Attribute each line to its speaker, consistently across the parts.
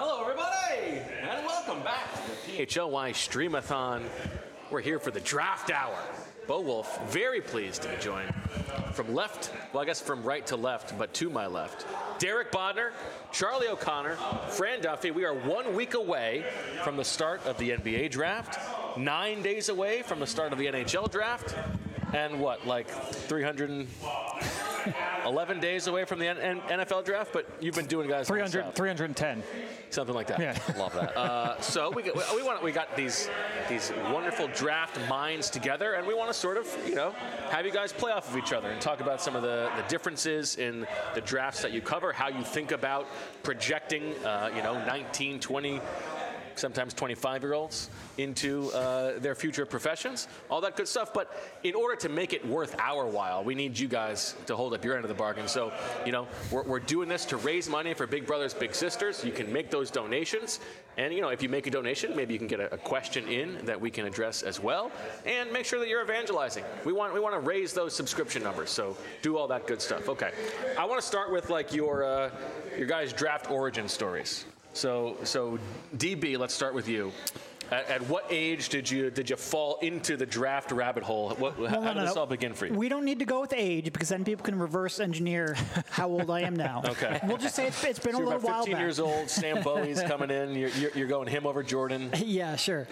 Speaker 1: Hello, everybody, and welcome back to the PHLY Streamathon. We're here for the draft hour. Bo Wolf, very pleased to be joined from left, well, I guess from right to left, but to my left. Derek Bodner, Charlie O'Connor, Fran Duffy. We are 1 week away from the start of the NBA draft, 9 days away from the start of the NHL draft, and what, like 311 days away from the NFL draft? But you've been doing, guys,
Speaker 2: 310.
Speaker 1: Something like that.
Speaker 2: Yeah.
Speaker 1: Love that. So we got these wonderful draft minds together, and we want to sort of, have you guys play off of each other and talk about some of the differences in the drafts that you cover, how you think about projecting, 19, 20, sometimes 25-year-olds into their future professions, all that good stuff. But in order to make it worth our while, we need you guys to hold up your end of the bargain. So, we're doing this to raise money for Big Brothers Big Sisters. You can make those donations. And, if you make a donation, maybe you can get a question in that we can address as well. And make sure that you're evangelizing. We want to raise those subscription numbers. So do all that good stuff. Okay. I want to start with, your guys' draft origin stories. So DB, let's start with you. At what age did you fall into the draft rabbit hole? How did this all begin for you?
Speaker 3: We don't need to go with age because then people can reverse engineer how old I am now.
Speaker 1: Okay.
Speaker 3: We'll just say it's been
Speaker 1: so
Speaker 3: a little
Speaker 1: about 15
Speaker 3: while back.
Speaker 1: years old. Sam Bowie's coming in. You're going him over Jordan.
Speaker 3: Yeah, sure.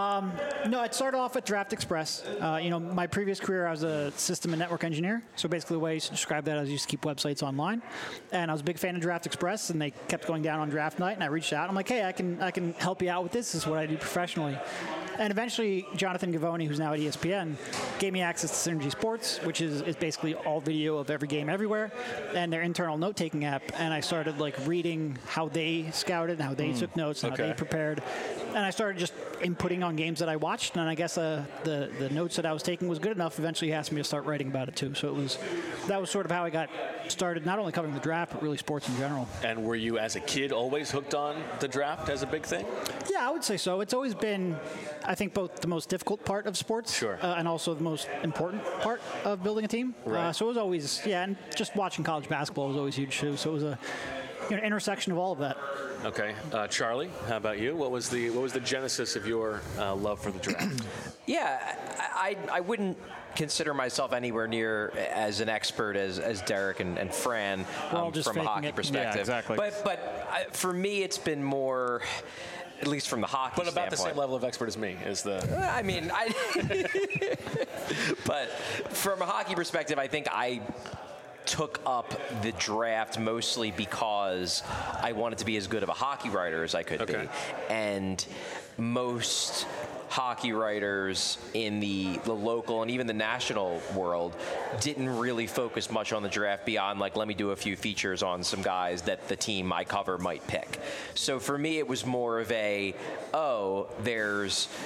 Speaker 3: No, it started off with Draft Express. My previous career, I was a system and network engineer. So basically the way I used to describe that, I used to keep websites online. And I was a big fan of Draft Express, and they kept going down on draft night. And I reached out. I'm like, hey, I can help you out with this. This is what I do professionally. And eventually, Jonathan Gavoni, who's now at ESPN, gave me access to Synergy Sports, which is basically all video of every game everywhere, and their internal note-taking app. And I started reading how they scouted, and how they took notes, and how they prepared. And I started just inputting on games that I watched, and I guess the notes that I was taking was good enough. Eventually, he asked me to start writing about it too. So that was sort of how I got started, not only covering the draft, but really sports in general.
Speaker 1: And were you, as a kid, always hooked on the draft as a big thing?
Speaker 3: Yeah, I would say so. It's always been, I think, both the most difficult part of sports,
Speaker 1: sure,
Speaker 3: and also the most important part of building a team.
Speaker 1: Right.
Speaker 3: So it was always, and just watching college basketball was always huge too. So it was a intersection of all of that.
Speaker 1: Okay, Charlie, how about you? What was the genesis of your love for the draft?
Speaker 4: Yeah, I wouldn't consider myself anywhere near as an expert as Derek and Fran from a hockey perspective.
Speaker 2: Yeah, exactly.
Speaker 4: But for me, it's been more, at least from the hockey
Speaker 1: But about
Speaker 4: standpoint.
Speaker 1: the same level of expert as me is the...
Speaker 4: But from a hockey perspective, I think I took up the draft mostly because I wanted to be as good of a hockey writer as I could be. And most hockey writers in the local and even the national world didn't really focus much on the draft beyond let me do a few features on some guys that the team I cover might pick. So for me, it was more of there's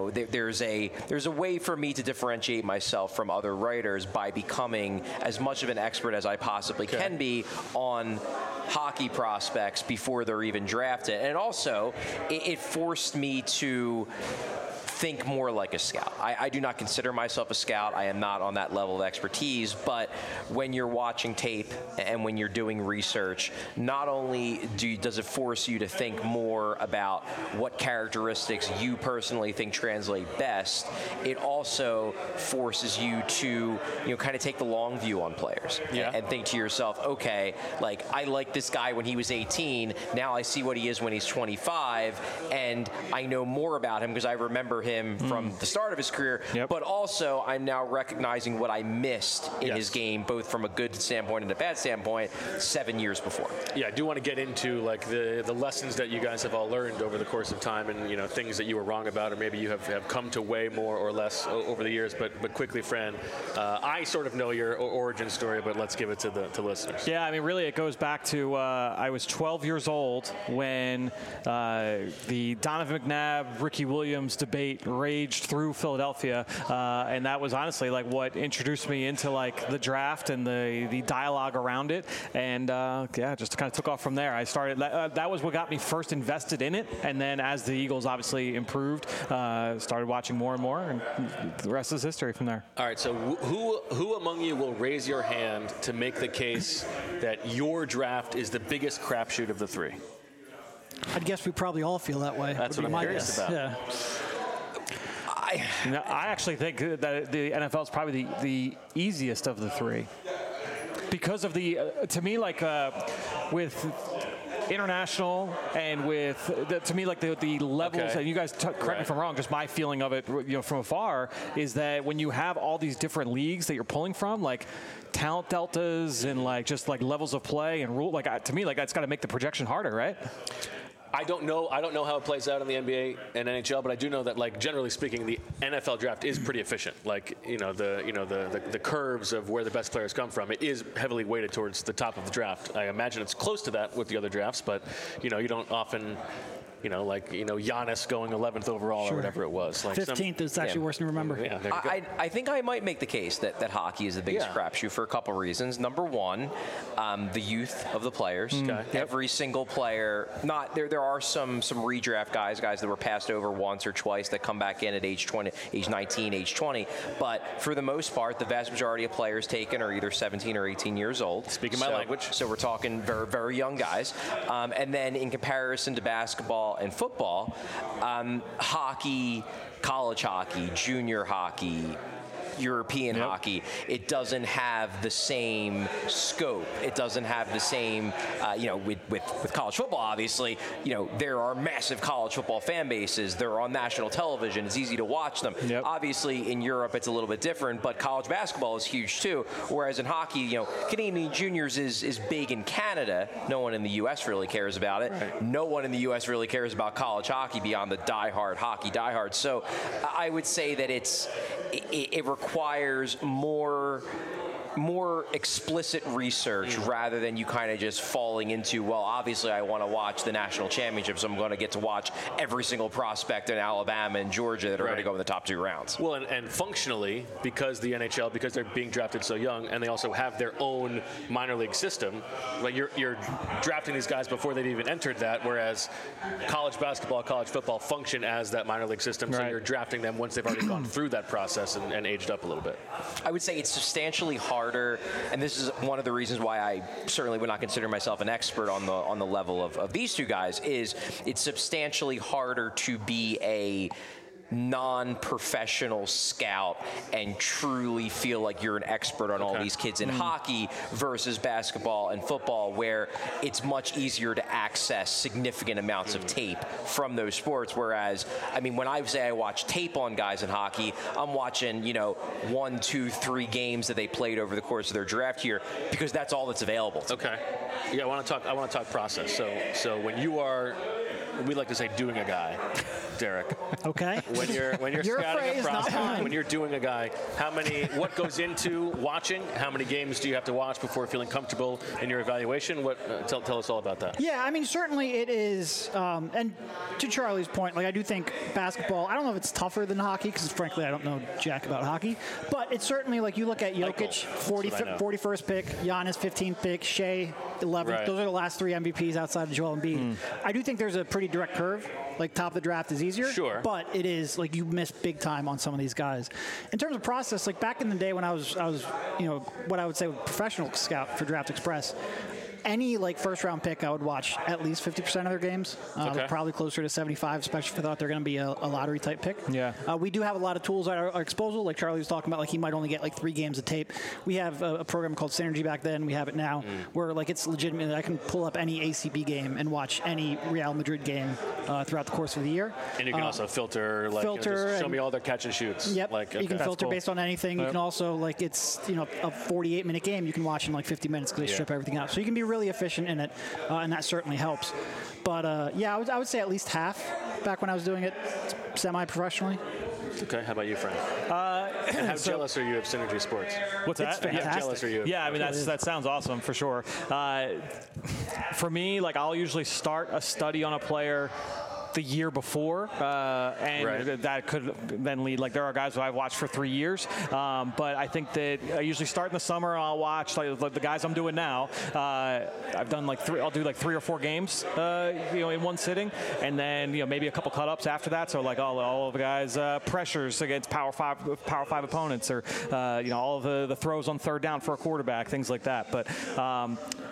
Speaker 4: a way for me to differentiate myself from other writers by becoming as much of an expert as I possibly can be on hockey prospects before they're even drafted. And also, it forced me to think more like a scout. I do not consider myself a scout. I am not on that level of expertise, but when you're watching tape and when you're doing research, not only does it force you to think more about what characteristics you personally think translate best, it also forces you to kind of take the long view on players and think to yourself, okay, I like this guy when he was 18, now I see what he is when he's 25, and I know more about him because I remember him from the start of his career, but also I'm now recognizing what I missed in his game, both from a good standpoint and a bad standpoint, 7 years before.
Speaker 1: Yeah, I do want to get into the lessons that you guys have all learned over the course of time, and things that you were wrong about, or maybe you have come to weigh more or less over the years. But quickly, Fran, I sort of know your origin story, but let's give it to the listeners.
Speaker 2: Yeah, I mean, really, it goes back to I was 12 years old when the Donovan McNabb, Ricky Williams debate raged through Philadelphia, and that was honestly what introduced me into the draft and the dialogue around it, and just kind of took off from there. I started that was what got me first invested in it, and then as the Eagles obviously improved, started watching more and more, and the rest is history from there.
Speaker 1: All right, so who among you will raise your hand to make the case that your draft is the biggest crapshoot of the three?
Speaker 3: I'd guess we probably all feel that way.
Speaker 1: That's what I'm curious about.
Speaker 3: Yeah.
Speaker 2: I actually think that the NFL is probably the easiest of the three because of to me, like with international and with to me, like the levels, and you guys correct me if I'm wrong, just my feeling of it, from afar, is that when you have all these different leagues that you're pulling from, like talent deltas and like just like levels of play and rule, like to me, like that's got to make the projection harder, right?
Speaker 1: I don't know how it plays out in the NBA and NHL, but I do know that, like, generally speaking, the NFL draft is pretty efficient. Like, the curves of where the best players come from, it is heavily weighted towards the top of the draft. I imagine it's close to that with the other drafts, but you don't often. Giannis going 11th overall or whatever it was. Like
Speaker 3: 15th is actually worse than you remember.
Speaker 1: Yeah, there you go.
Speaker 4: I think I might make the case that hockey is the biggest crapshoot for a couple reasons. Number one, the youth of the players. Every single player, there are some redraft guys that were passed over once or twice that come back in at age 20, age 19, age 20. But for the most part, the vast majority of players taken are either 17 or 18 years old.
Speaker 1: Speaking my language.
Speaker 4: So we're talking very, very young guys. And then in comparison to basketball and football, hockey, college hockey, junior hockey, European hockey, it doesn't have the same scope. It doesn't have the same, with college football, obviously, there are massive college football fan bases. They're on national television. It's easy to watch them. Obviously, in Europe, it's a little bit different, but college basketball is huge too. Whereas in hockey, Canadian Juniors is big in Canada. No one in the U.S. really cares about it. Right. No one in the U.S. really cares about college hockey beyond the diehard hockey diehards. So I would say that it requires more explicit research rather than you kind of just falling into, well, obviously I want to watch the national championships, so I'm going to get to watch every single prospect in Alabama and Georgia that are going to go in the top 2 rounds.
Speaker 1: Well, and functionally, because the NHL, because they're being drafted so young, and they also have their own minor league system, like you're drafting these guys before they've even entered that, whereas college basketball, college football function as that minor league system, so you're drafting them once they've already gone through that process and aged up a little bit.
Speaker 4: I would say it's substantially harder, and this is one of the reasons why I certainly would not consider myself an expert on the level of these two guys, is it's substantially harder to be a non-professional scout and truly feel like you're an expert on all these kids in hockey versus basketball and football, where it's much easier to access significant amounts of tape from those sports. Whereas, when I say I watch tape on guys in hockey, I'm watching, 1, 2, 3 games that they played over the course of their draft year, because that's all that's available to me.
Speaker 1: Yeah, I want to talk process. So when you are, we like to say, doing a guy, Derek.
Speaker 3: Okay.
Speaker 1: When you're
Speaker 3: Your
Speaker 1: scouting
Speaker 3: phrase,
Speaker 1: a prospect,
Speaker 3: not mine.
Speaker 1: when you're doing a guy, what goes into watching? How many games do you have to watch before feeling comfortable in your evaluation? Tell us all about that.
Speaker 3: Yeah, certainly it is. And to Charlie's point, I do think basketball, I don't know if it's tougher than hockey, because frankly, I don't know jack about hockey. But it's certainly, you look at Jokic, 41st pick, Giannis, 15th pick, Shea, 11th.
Speaker 1: Right.
Speaker 3: Those are the last 3 MVPs outside of Joel Embiid. I do think there's a pretty direct curve. Top of the draft is easier.
Speaker 1: Sure.
Speaker 3: But it is, you miss big time on some of these guys. In terms of process, back in the day when I was what I would say a professional scout for Draft Express, any first round pick, I would watch at least 50% of their games. Probably closer to 75, especially if I thought they're going to be a lottery type pick.
Speaker 2: Yeah.
Speaker 3: We do have a lot of tools at our disposal, like Charlie was talking about. He might only get 3 games of tape. We have a program called Synergy back then. We have it now, where it's legitimately I can pull up any ACB game and watch any Real Madrid game throughout the course of the year.
Speaker 1: And you can also filter, just show me all their catch and shoots.
Speaker 3: Yep. You can filter based on anything. Yep. You can also it's a 48-minute game you can watch in 50 minutes because they strip everything out. So you can be really efficient in it, and that certainly helps. But I would say at least half back when I was doing it semi-professionally.
Speaker 1: Okay, how about you, Frank? And how jealous are you of Synergy Sports?
Speaker 2: What's that?
Speaker 3: It's fantastic.
Speaker 1: How jealous are you?
Speaker 2: Yeah, that sounds awesome for sure. For me, I'll usually start a study on a player the year before, and that could then lead. There are guys who I've watched for 3 years, but I think that I usually start in the summer. I'll watch the guys I'm doing now. I've done I'll do 3 or 4 games, in one sitting, and then maybe a couple cut-ups after that. So all of the guys' pressures against Power 5 opponents, or all of the throws on third down for a quarterback, things like that. But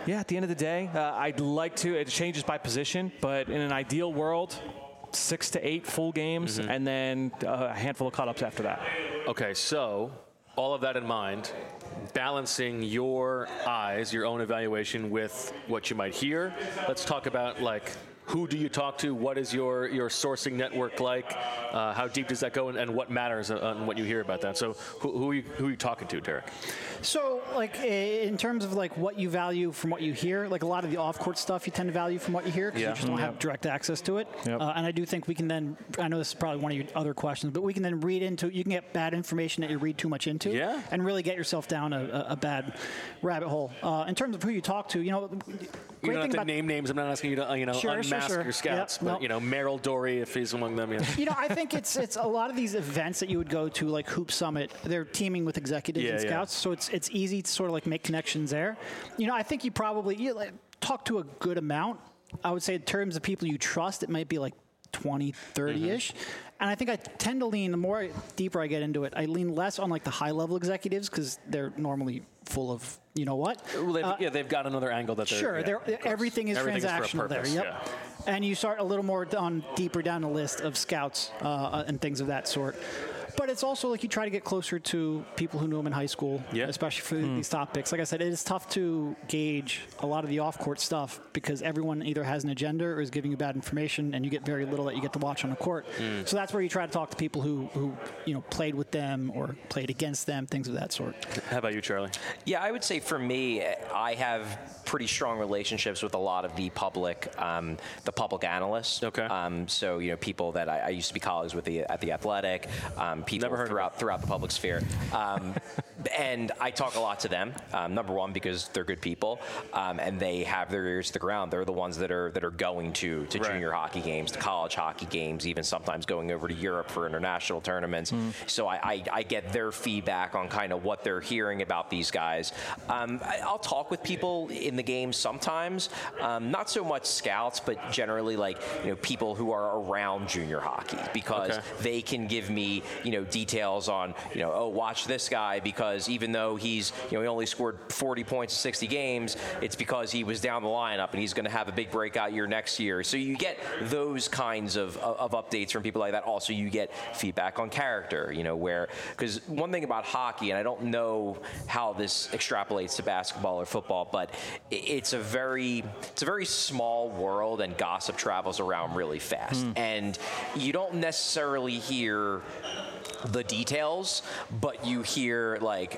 Speaker 2: Yeah, at the end of the day, I'd like to. It changes by position, but in an ideal world, 6 to 8 full games, and then a handful of cut-ups after that.
Speaker 1: Okay, so all of that in mind, balancing your eyes, your own evaluation with what you might hear. Let's talk about, like, who do you talk to? What is your sourcing network like? How deep does that go, and what matters on what you hear about that? So who are you talking to, Derek?
Speaker 3: So, like, in terms of like what you value from what you hear, like a lot of the off-court stuff you tend to value from what you hear because you just don't have direct access to it.
Speaker 2: Yep.
Speaker 3: And I do think we can then, I know this is probably one of your other questions, but we can then read into, you can get bad information that you read too much into and really get yourself down a bad rabbit hole. In terms of who you talk to, you know,
Speaker 1: You don't have to name names. I'm not asking you to, unmask your scouts, but, Merrill Dory, if he's among them. Yeah.
Speaker 3: I think it's a lot of these events that you would go to, like Hoop Summit, they're teaming with executives and scouts, so it's easy to sort of like make connections there. I think you probably talk to a good amount. I would say in terms of people you trust, it might be like 20, 30-ish. And I think I tend to lean, the more deeper I get into it, I lean less on like the high-level executives because they're normally full of, you know what?
Speaker 1: Well, they've got another angle that they're...
Speaker 3: Sure, everything is transactional there. Yep.
Speaker 1: Yeah.
Speaker 3: And you start a little more deeper down the list of scouts and things of that sort. But it's also like you try to get closer to people who knew him in high school, especially for these topics. Like I said, it is tough to gauge a lot of the off-court stuff because everyone either has an agenda or is giving you bad information, and you get very little that you get to watch on the court. So that's where you try to talk to people who played with them or played against them, things of that sort.
Speaker 1: How about you, Charlie?
Speaker 4: Yeah, I would say for me, I have pretty strong relationships with a lot of the public analysts.
Speaker 1: Okay.
Speaker 4: So people that I used to be colleagues with at the Athletic. People throughout the public sphere. And I talk a lot to them, number one, because they're good people, and they have their ears to the ground. They're the ones that are going to junior hockey games, to college hockey games, even sometimes going over to Europe for international tournaments. So I get their feedback on kind of what they're hearing about these guys. I'll talk with people in the game sometimes, not so much scouts, but generally people who are around junior hockey, because they can give me details on, watch this guy because even though he's, he only scored 40 points in 60 games, it's because he was down the lineup and he's going to have a big breakout year next year. So you get those kinds of updates from people like that. Also, you get feedback on character, because one thing about hockey, and I don't know how this extrapolates to basketball or football, but it's a very small world and gossip travels around really fast. And you don't necessarily hear the details, but you hear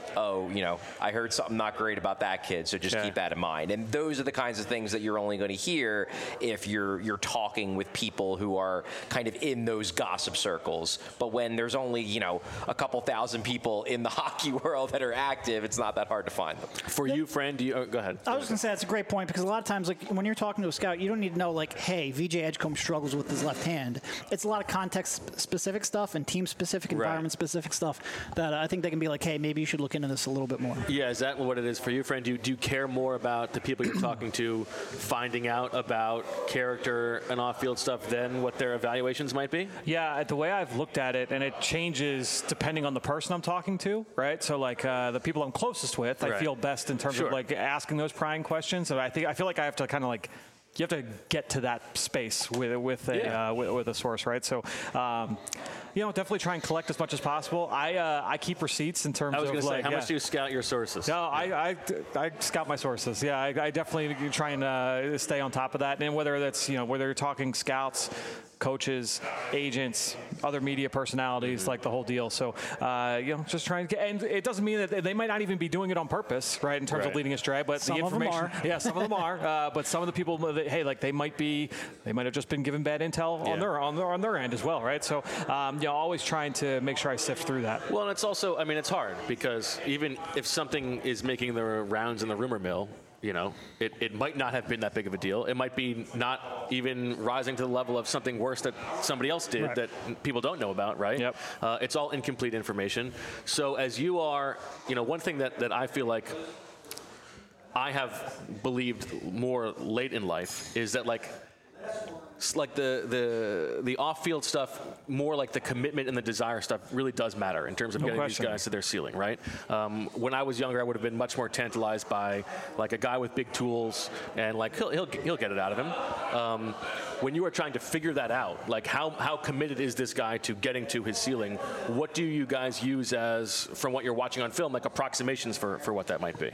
Speaker 4: I heard something not great about that kid, so just keep that in mind. And those are the kinds of things that you're only going to hear if you're talking with people who are kind of in those gossip circles. But when there's only a couple thousand people in the hockey world that are active, it's not that hard to find them.
Speaker 1: For you, Fran, go ahead.
Speaker 3: I was going to say that's a great point, because a lot of times, when you're talking to a scout, you don't need to know hey, VJ Edgecombe struggles with his left hand. It's a lot of context-specific stuff and team-specific environment-specific stuff that I think they can be hey, maybe you should look into this a little bit more. Yeah,
Speaker 1: is that what it is for you, Fran? Do you care more about the people you're talking to finding out about character and off-field stuff than what their evaluations might be?
Speaker 2: Yeah, the way I've looked at it, and it changes depending on the person I'm talking to, right? So the people I'm closest with, I feel best in terms of asking those prying questions. So I feel like I have to kind of you have to get to that space with a source, right? So, definitely try and collect as much as possible. I keep receipts in terms of
Speaker 1: how much do you scout your sources?
Speaker 2: No, I scout my sources. Yeah, I definitely try and stay on top of that. And whether that's whether you're talking scouts, coaches, agents, other media personalities, the whole deal. So, just trying to get, and it doesn't mean that they might not even be doing it on purpose, right, in terms of leading astray, but
Speaker 3: some
Speaker 2: the information.
Speaker 3: Of them are.
Speaker 2: Yeah, some of them are. But some of the people, they might have just been given bad intel on their end as well, right? So, always trying to make sure I sift through that.
Speaker 1: Well, and it's also, it's hard because even if something is making the rounds in the rumor mill, it might not have been that big of a deal. It might be not even rising to the level of something worse that somebody else did that people don't know about, right?
Speaker 2: Yep.
Speaker 1: It's all incomplete information. So as you are, one thing that I feel like I have believed more late in life is that like the off-field stuff, more like the commitment and the desire stuff really does matter in terms of getting these guys to their ceiling, right? When I was younger, I would have been much more tantalized by like a guy with big tools, and like he'll get it out of him. When you are trying to figure that out, like how committed is this guy to getting to his ceiling? What do you guys use as, from what you're watching on film, like approximations for what that might be?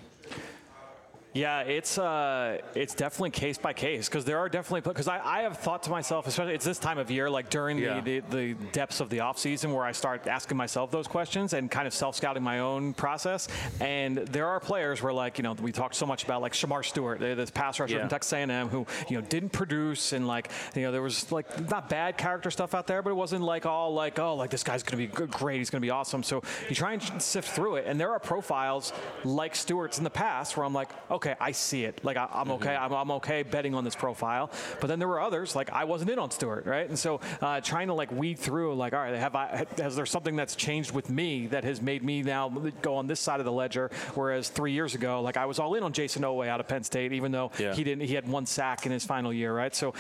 Speaker 2: Yeah, it's definitely case by case, because there are definitely, because I have thought to myself, especially it's this time of year, like during the depths of the off season, where I start asking myself those questions and kind of self-scouting my own process. And there are players where, like, we talked so much about like Shamar Stewart, this pass rusher from Texas A&M, who didn't produce, and like there was like not bad character stuff out there, but it wasn't like all like, oh, like this guy's going to be great, he's going to be awesome. So you try and sift through it, and there are profiles like Stewart's in the past where I'm like, okay, I see it. Like I'm okay. I'm okay betting on this profile. But then there were others, like I wasn't in on Stewart, right? And so trying to like weed through, like, all right, has there something that's changed with me that has made me now go on this side of the ledger? Whereas 3 years ago, like I was all in on Jason Oweh out of Penn State, even though he had 1 sack in his final year, right? So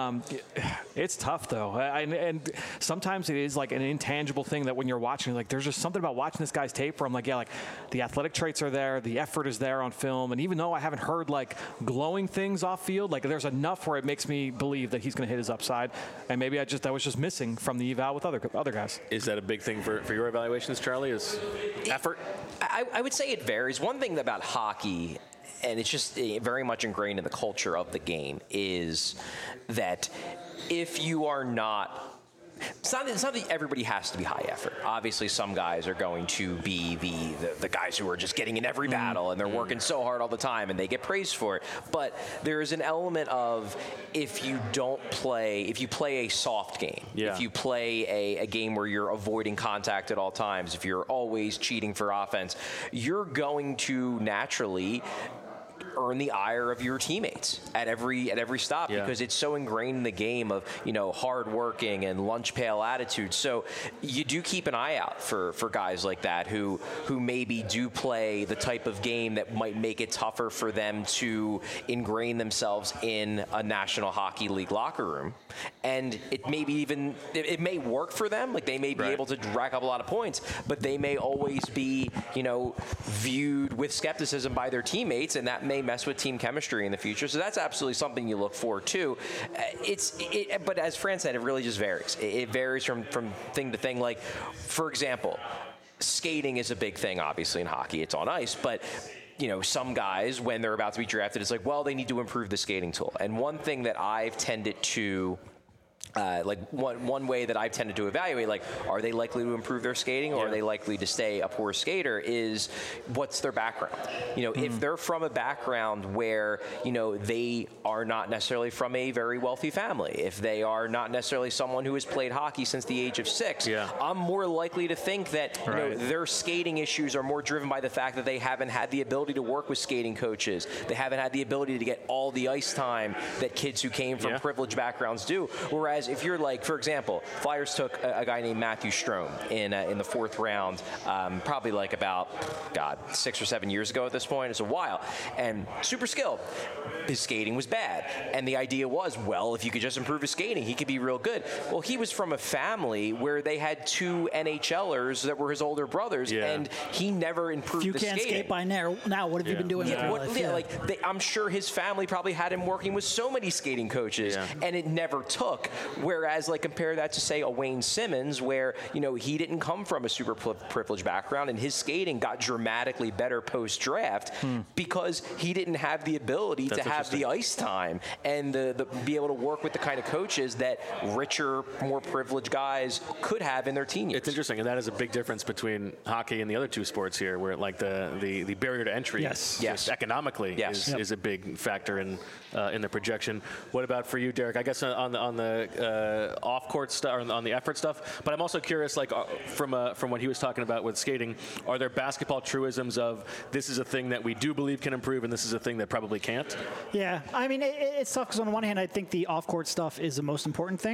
Speaker 2: it's tough though, and sometimes it is like an intangible thing that when you're watching, like there's just something about watching this guy's tape where I'm like, yeah, like the athletic traits are there, the effort is there on film, and even though I haven't heard like glowing things off field, like there's enough where it makes me believe that he's going to hit his upside, and maybe that was just missing from the eval with other guys.
Speaker 1: Is that a big thing for your evaluations, Charlie? Is effort?
Speaker 4: I would say it varies. One thing about hockey, and it's just very much ingrained in the culture of the game, is that if you are not, it's not that everybody has to be high effort. Obviously, some guys are going to be the guys who are just getting in every battle and they're working so hard all the time and they get praised for it. But there is an element of if you play a soft game, if you play a game where you're avoiding contact at all times, if you're always cheating for offense, you're going to naturally earn the ire of your teammates at every stop because it's so ingrained in the game of hard working and lunch pail attitude. So you do keep an eye out for guys like that who maybe do play the type of game that might make it tougher for them to ingrain themselves in a National Hockey League locker room. And it may work for them, like they may be able to rack up a lot of points, but they may always be viewed with skepticism by their teammates, and that may mess with team chemistry in the future. So that's absolutely something you look for too. But as Fran said, it really just varies. It varies from thing to thing. Like, for example, skating is a big thing, obviously, in hockey. It's on ice, but some guys, when they're about to be drafted, it's like, well, they need to improve the skating tool. And one thing that I've tended to one way that I've tended to evaluate, like, are they likely to improve their skating or are they likely to stay a poor skater, is what's their background. If they're from a background where, they are not necessarily from a very wealthy family, if they are not necessarily someone who has played hockey since the age of 6, I'm more likely to think that their skating issues are more driven by the fact that they haven't had the ability to work with skating coaches. They haven't had the ability to get all the ice time that kids who came from privileged backgrounds do. Whereas if you're like, for example, Flyers took a guy named Matthew Strome in the 4th round, probably like about 6 or 7 years ago at this point. It's a while, and super skilled. His skating was bad, and the idea was, well, if you could just improve his skating, he could be real good. Well, he was from a family where they had 2 NHLers that were his older brothers, and he never improved the skating.
Speaker 3: If you can't skate by now, what have you been doing?
Speaker 4: I'm sure his family probably had him working with so many skating coaches, and it never took. Whereas, like, compare that to, say, a Wayne Simmons, where, he didn't come from a super privileged background, and his skating got dramatically better post-draft because he didn't have the ability to have the ice time and the be able to work with the kind of coaches that richer, more privileged guys could have in their teen years.
Speaker 1: It's interesting, and that is a big difference between hockey and the other 2 sports here, where like the barrier to entry economically is a big factor in the projection. What about for you, Derek? I guess on the off-court stuff, or on the effort stuff, but I'm also curious, like from what he was talking about with skating, are there basketball truisms of this is a thing that we do believe can improve and this is a thing that probably can't?
Speaker 3: Yeah, I mean, it's tough because on the one hand, I think the off-court stuff is the most important thing.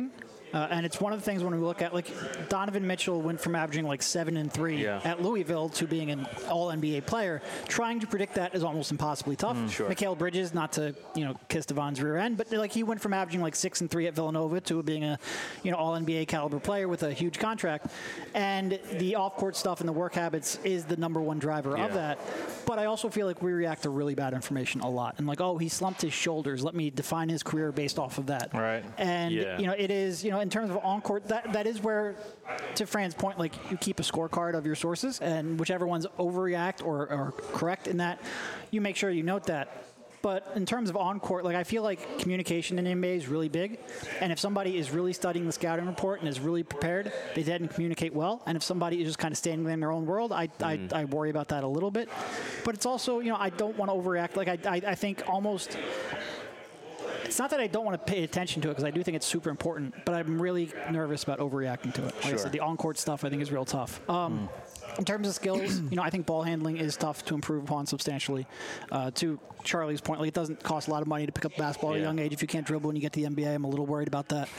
Speaker 3: And it's one of the things when we look at, like, Donovan Mitchell went from averaging like 7 and 3 at Louisville to being an all-NBA player. Trying to predict that is almost impossibly tough. Mikal Bridges, not to, kiss Devon's rear end, but like he went from averaging like 6 and 3 at Villanova to being a, all-NBA caliber player with a huge contract. And the off-court stuff and the work habits is the number one driver of that. But I also feel like we react to really bad information a lot. And like, oh, he slumped his shoulders. Let me define his career based off of that.
Speaker 2: Right.
Speaker 3: And, it is, in terms of on-court, that is where, to Fran's point, like, you keep a scorecard of your sources, and whichever ones overreact or correct in that, you make sure you note that. But in terms of on-court, like, I feel like communication in the NBA is really big. And if somebody is really studying the scouting report and is really prepared, they tend to communicate well. And if somebody is just kind of standing in their own world, I worry about that a little bit. But it's also, I don't want to overreact. Like, I think almost... It's not that I don't want to pay attention to it, because I do think it's super important, but I'm really nervous about overreacting to it. Like I said, the on-court stuff I think is real tough. In terms of skills, I think ball handling is tough to improve upon substantially. To Charlie's point, like, it doesn't cost a lot of money to pick up basketball at a young age. If you can't dribble when you get to the NBA, I'm a little worried about that.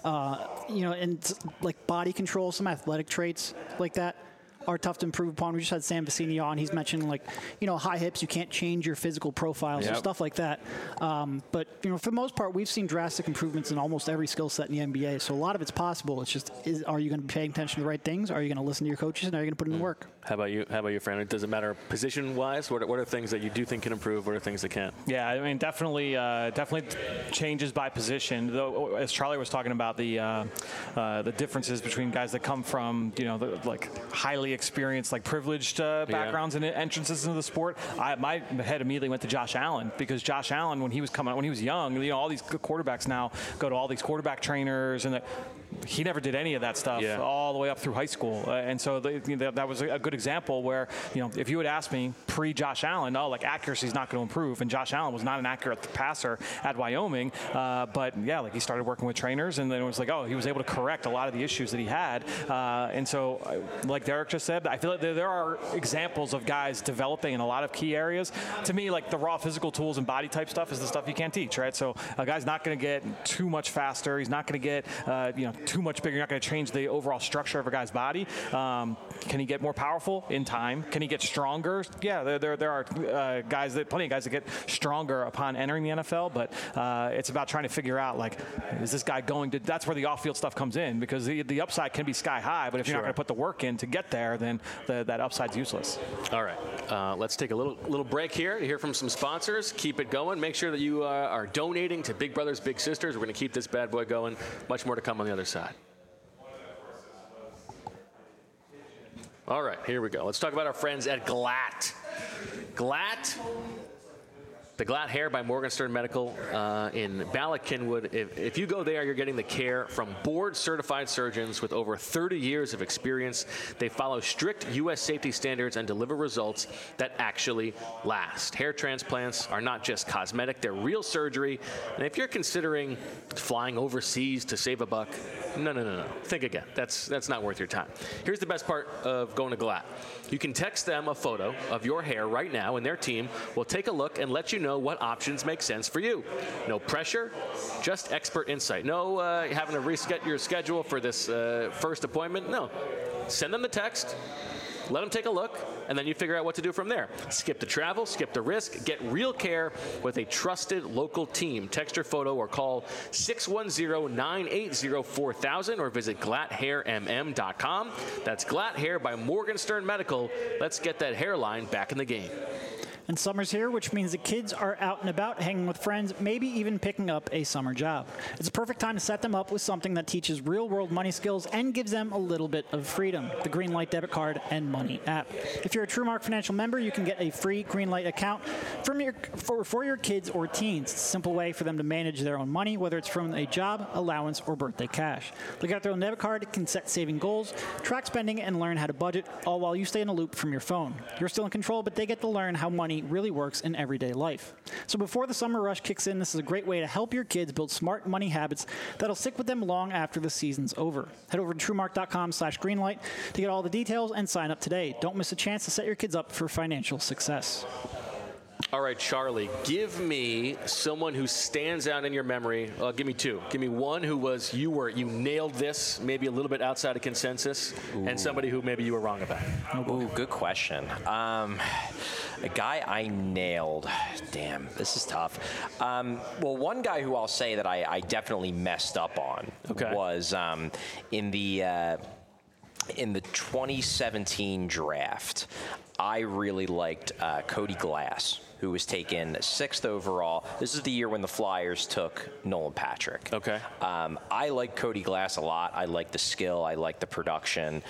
Speaker 3: And like body control, some athletic traits like that are tough to improve upon. We just had Sam Vecini on. He's mentioned, like, high hips, you can't change your physical profiles or stuff like that. But, for the most part, we've seen drastic improvements in almost every skill set in the NBA. So a lot of it's possible. It's just, are you going to be paying attention to the right things? Are you going to listen to your coaches? And are you going to put in the work?
Speaker 1: How about you, Fran? Does it matter position-wise? What are things that you do think can improve? What are things that can't?
Speaker 2: Yeah, I mean, definitely changes by position. Though, as Charlie was talking about the differences between guys that come from, highly experienced, like, privileged backgrounds and entrances into the sport. My head immediately went to Josh Allen, because Josh Allen, when he was young, all these quarterbacks now go to all these quarterback trainers, and he never did any of that stuff all the way up through high school. And so that was a good example where, if you had asked me pre-Josh Allen, accuracy is not going to improve, and Josh Allen was not an accurate passer at Wyoming, but he started working with trainers, and then it was like, he was able to correct a lot of the issues that he had. And so, like Derek just said, I feel like there are examples of guys developing in a lot of key areas. To me, like, the raw physical tools and body type stuff is the stuff you can't teach, right? So a guy's not going to get too much faster. He's not going to get, too much bigger. You're not going to change the overall structure of a guy's body. Can he get more powerful in time? Can he get stronger? Yeah, there are plenty of guys that get stronger upon entering the NFL, but it's about trying to figure out, like, is this guy going to, that's where the off-field stuff comes in, because the upside can be sky high, but if you're not going to put the work in to get there, then that upside's useless.
Speaker 1: All right. Let's take a little break here to hear from some sponsors. Keep it going. Make sure that you are donating to Big Brothers Big Sisters. We're going to keep this bad boy going. Much more to come on the other side. All right, here we go. Let's talk about our friends at Glatt. The Glatt Hair by Morgenstern Medical in Ballackinwood. If you go there, you're getting the care from board-certified surgeons with over 30 years of experience. They follow strict U.S. safety standards and deliver results that actually last. Hair transplants are not just cosmetic, they're real surgery. And if you're considering flying overseas to save a buck, no. Think again. That's not worth your time. Here's the best part of going to Glatt. You can text them a photo of your hair right now, and their team will take a look and let you know what options make sense for you. No pressure, just expert insight. No having to reset your schedule for this first appointment. No. Send them the text. Let them take a look, and then you figure out what to do from there. Skip the travel, skip the risk, get real care with a trusted local team. Text your photo or call 610-980-4000 or visit glatthairmm.com. That's Glatt Hair by Morgenstern Medical. Let's get that hairline back in the game.
Speaker 3: And summer's here, which means the kids are out and about, hanging with friends, maybe even picking up a summer job. It's a perfect time to set them up with something that teaches real-world money skills and gives them a little bit of freedom, the Greenlight debit card and money app. If you're a TrueMark Financial member, you can get a free Greenlight account for your kids or teens. It's a simple way for them to manage their own money, whether it's from a job, allowance, or birthday cash. They got their own debit card, can set saving goals, track spending, and learn how to budget, all while you stay in a loop from your phone. You're still in control, but they get to learn how money really works in everyday life. So before the summer rush kicks in, this is a great way to help your kids build smart money habits that'll stick with them long after the season's over. Head over to TrueMark.com/Greenlight to get all the details and sign up today. Don't miss a chance to set your kids up for financial success.
Speaker 1: All right, Charlie, give me someone who stands out in your memory. Give me two. Give me one who was you nailed this, maybe a little bit outside of consensus, and somebody who maybe you were wrong about.
Speaker 4: Ooh, good question. A guy I nailed. Damn, this is tough. Well, one guy who I'll say that I definitely messed up on was in the 2017 draft. I really liked Cody Glass, who was taken 6th overall. This is the year when the Flyers took Nolan Patrick.
Speaker 1: Okay.
Speaker 4: I like Cody Glass a lot. I like the skill. I like the production.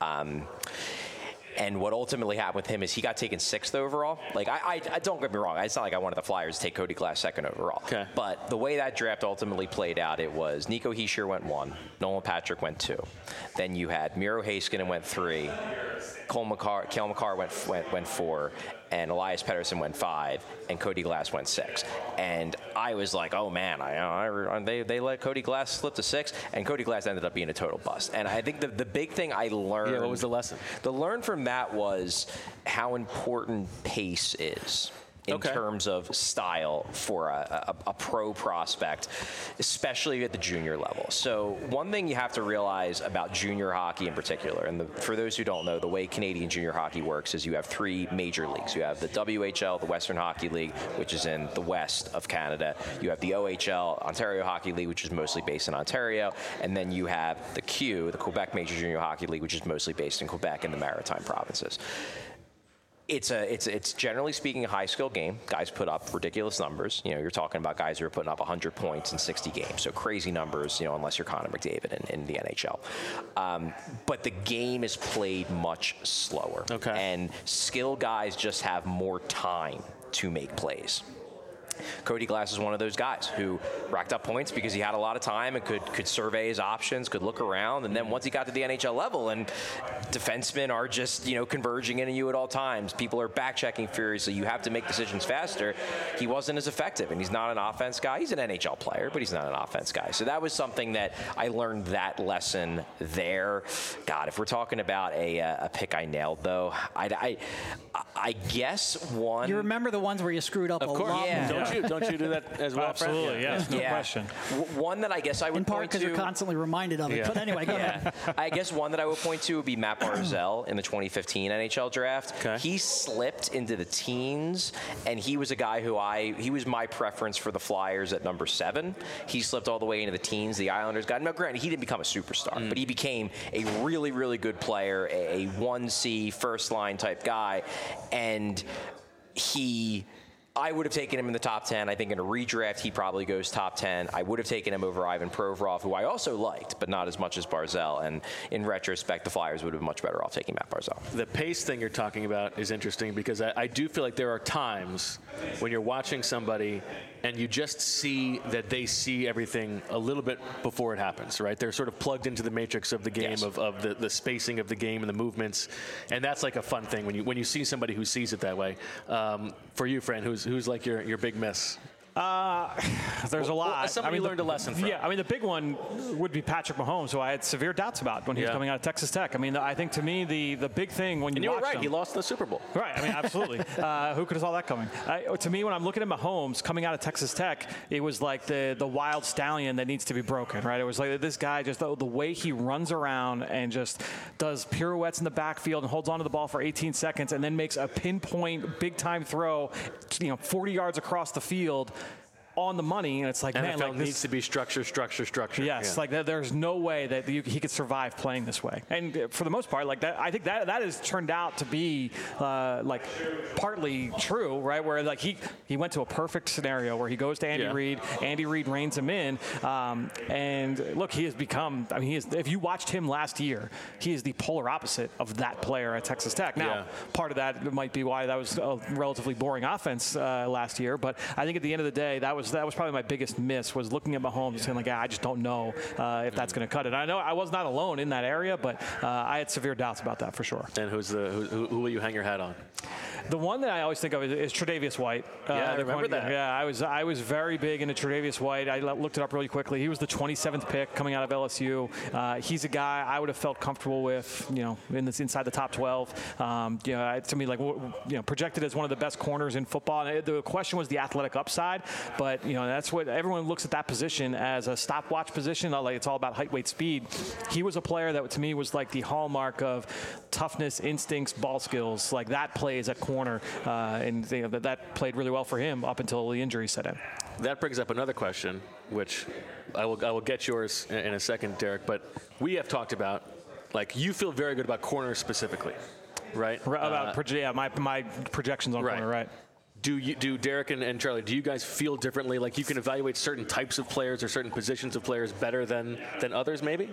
Speaker 4: And what ultimately happened with him is he got taken 6th overall. Like, I don't get me wrong. It's not like I wanted the Flyers to take Cody Glass 2nd overall.
Speaker 1: Okay.
Speaker 4: But the way that draft ultimately played out, it was Nico Hischier went 1, Nolan Patrick went 2. Then you had Miro Heiskanen went 3, Cale Makar went 4, and Elias Pettersson went 5, and Cody Glass went 6. And I was like, oh man, they let Cody Glass slip to 6, and Cody Glass ended up being a total bust. And I think the big thing I learned.
Speaker 1: Yeah, what was the lesson?
Speaker 4: The learn from that was how important pace is in terms of style for a pro prospect, especially at the junior level. So one thing you have to realize about junior hockey in particular, and for those who don't know, the way Canadian junior hockey works is you have 3 major leagues. You have the WHL, the Western Hockey League, which is in the west of Canada. You have the OHL, Ontario Hockey League, which is mostly based in Ontario. And then you have the Q, the Quebec Major Junior Hockey League, which is mostly based in Quebec and the Maritime provinces. It's generally speaking a high-skill game. Guys put up ridiculous numbers. You're talking about guys who are putting up 100 points in 60 games. So crazy numbers, unless you're Connor McDavid in the NHL. But the game is played much slower.
Speaker 1: Okay.
Speaker 4: And skill guys just have more time to make plays. Cody Glass is one of those guys who racked up points because he had a lot of time and could survey his options, could look around, and then once he got to the NHL level, and defensemen are just converging into you at all times. People are back-checking furiously. You have to make decisions faster. He wasn't as effective, and he's not an offense guy. He's an NHL player, but he's not an offense guy. So that was something that I learned that lesson there. God, if we're talking about a pick I nailed, though, I guess one.
Speaker 3: You remember the ones where you screwed up a lot.
Speaker 4: Yeah.
Speaker 1: Don't you do that as well?
Speaker 2: Absolutely, yes, no question.
Speaker 4: One that I guess I would
Speaker 3: in part
Speaker 4: point to.
Speaker 3: because you're constantly reminded of it. But anyway, go ahead.
Speaker 4: I guess one that I would point to would be Matt Barzal in the 2015 NHL draft.
Speaker 1: Okay.
Speaker 4: He slipped into the teens, and he was a guy he was my preference for the Flyers at number 7. He slipped all the way into the teens. The Islanders got him. Now, granted, he didn't become a superstar, but he became a really, really good player, a 1C first-line type guy, and I would have taken him in the top 10. I think in a redraft, he probably goes top 10. I would have taken him over Ivan Provorov, who I also liked, but not as much as Barzal. And in retrospect, the Flyers would have been much better off taking Matt Barzal.
Speaker 1: The pace thing you're talking about is interesting because I do feel like there are times when you're watching somebody and you just see that they see everything a little bit before it happens, right? They're sort of plugged into the matrix of the game,
Speaker 4: yes.
Speaker 1: of the spacing of the game and the movements. And that's like a fun thing when you see somebody who sees it that way. For you, Fran, who's like your big miss?
Speaker 2: There's a lot.
Speaker 1: Somebody learned a lesson from.
Speaker 2: Yeah, the big one would be Patrick Mahomes, who I had severe doubts about when he was coming out of Texas Tech. I think to me the big thing when you
Speaker 1: were
Speaker 2: watch
Speaker 1: right.
Speaker 2: him,
Speaker 1: He lost the Super Bowl.
Speaker 2: Right. Absolutely. Who could have saw that coming? To me, when I'm looking at Mahomes coming out of Texas Tech, it was like the wild stallion that needs to be broken. Right. It was like this guy just the way he runs around and just does pirouettes in the backfield and holds onto the ball for 18 seconds and then makes a pinpoint big time throw, 40 yards across the field. On the money, and it's like,
Speaker 1: NFL
Speaker 2: man, like
Speaker 1: needs to be structure.
Speaker 2: Yes, like there's no way that he could survive playing this way. And for the most part, like that, I think that has turned out to be like partly true, right? Where like he went to a perfect scenario where he goes to Andy Reid. Andy Reid reins him in, and look, he has become. If you watched him last year, he is the polar opposite of that player at Texas Tech. Now, part of that might be why that was a relatively boring offense last year, but I think at the end of the day, that was was probably my biggest miss, was looking at Mahomes and saying, like, I just don't know if that's going to cut it. I know I was not alone in that area, but I had severe doubts about that for sure.
Speaker 1: And who will you hang your hat on?
Speaker 2: The one that I always think of is Tre'Davious White.
Speaker 1: I remember that.
Speaker 2: Yeah, I was very big into Tre'Davious White. I looked it up really quickly. He was the 27th pick coming out of LSU. He's a guy I would have felt comfortable with, inside the top 12. To me, projected as one of the best corners in football. And the question was the athletic upside, but that's what everyone looks at, that position as a stopwatch position. Like, it's all about height, weight, speed. He was a player that to me was like the hallmark of toughness, instincts, ball skills. Like, that plays at corner, and that played really well for him up until the injury set in.
Speaker 1: That brings up another question, which I will get yours in a second, Derek. But we have talked about, like, you feel very good about corners specifically, right?
Speaker 2: My projections on corner, right?
Speaker 1: Do Derek and Charlie, do you guys feel differently? Like, you can evaluate certain types of players or certain positions of players better than others, maybe?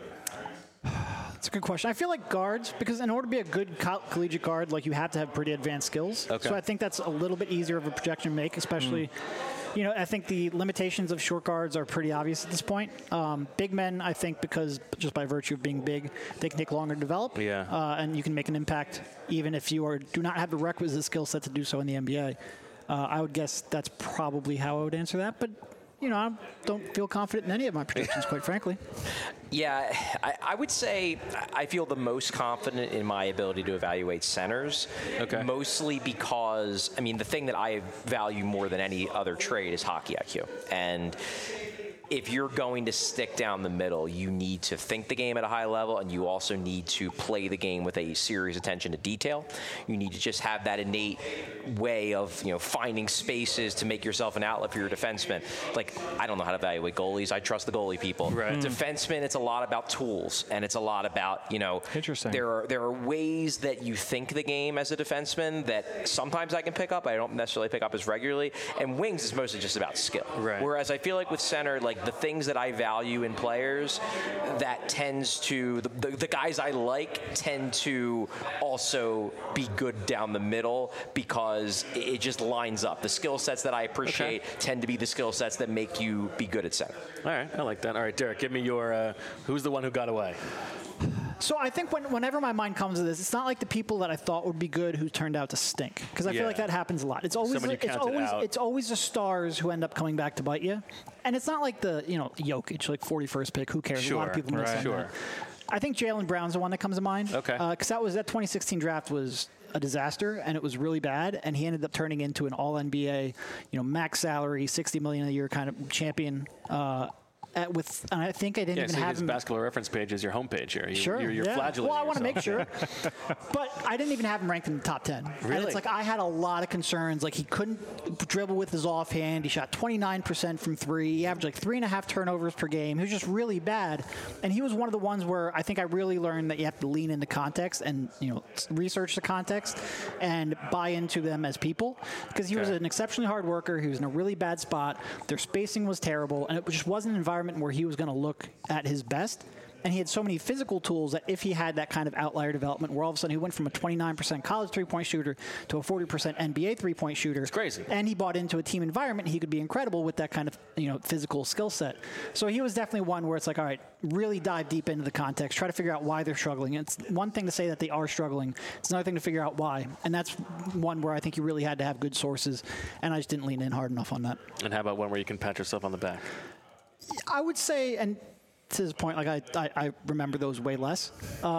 Speaker 3: That's a good question. I feel like guards, because in order to be a good collegiate guard, like, you have to have pretty advanced skills. Okay. So I think that's a little bit easier of a projection to make, especially, I think the limitations of short guards are pretty obvious at this point. Big men, I think, because just by virtue of being big, they can take longer to develop.
Speaker 1: Yeah.
Speaker 3: And you can make an impact even if you do not have the requisite skill set to do so in the NBA. I would guess that's probably how I would answer that. But, I don't feel confident in any of my predictions, quite frankly.
Speaker 4: Yeah, I would say I feel the most confident in my ability to evaluate centers.
Speaker 1: Okay.
Speaker 4: Mostly because, the thing that I value more than any other trade is hockey IQ. And if you're going to stick down the middle, you need to think the game at a high level, and you also need to play the game with a serious attention to detail. You need to just have that innate way of, finding spaces to make yourself an outlet for your defenseman. Like, I don't know how to evaluate goalies. I trust the goalie people.
Speaker 1: Right.
Speaker 4: Defensemen, it's a lot about tools, and it's a lot about,
Speaker 2: Interesting.
Speaker 4: There are ways that you think the game as a defenseman that sometimes I can pick up. I don't necessarily pick up as regularly. And wings is mostly just about skill.
Speaker 1: Right.
Speaker 4: Whereas I feel like with center, like, the things that I value in players, that tends to, the guys I like tend to also be good down the middle, because it just lines up. The skill sets that I appreciate tend to be the skill sets that make you be good at center.
Speaker 1: All right, I like that. All right, Derek, give me your, who's the one who got away?
Speaker 3: So I think whenever my mind comes to this, it's not like the people that I thought would be good who turned out to stink, because I feel like that happens a lot. It's always it's always the stars who end up coming back to bite you, and it's not like the Jokic, like 41st pick. Who cares?
Speaker 1: Sure,
Speaker 3: a lot of people miss on that. I think Jaylen Brown's the one that comes to mind.
Speaker 1: Okay.
Speaker 3: Because that 2016 draft was a disaster, and it was really bad, and he ended up turning into an All-NBA, max salary, $60 million a year kind of champion. And I think I didn't even have him.
Speaker 1: Basketball Reference page is your homepage here. You're
Speaker 3: yeah.
Speaker 1: flagellating
Speaker 3: Well, I want to make
Speaker 1: yourself.
Speaker 3: sure. But I didn't even have him ranked in the top 10.
Speaker 1: Really?
Speaker 3: And it's like I had a lot of concerns. Like, he couldn't dribble with his offhand. He shot 29% from three. He averaged like 3.5 turnovers per game. He was just really bad. And he was one of the ones where I think I really learned that you have to lean into context and, research the context and buy into them as people. Because he was an exceptionally hard worker. He was in a really bad spot. Their spacing was terrible. And it just wasn't an environment where he was going to look at his best. And he had so many physical tools that if he had that kind of outlier development where all of a sudden he went from a 29% college three-point shooter to a 40% NBA three-point shooter.
Speaker 1: It's crazy.
Speaker 3: And he bought into a team environment, he could be incredible with that kind of physical skill set. So he was definitely one where it's like, all right, really dive deep into the context, try to figure out why they're struggling. It's one thing to say that they are struggling. It's another thing to figure out why. And that's one where I think you really had to have good sources, and I just didn't lean in hard enough on that.
Speaker 1: And how about one where you can pat yourself on the back?
Speaker 3: I would say, and to his point, like I remember those way less.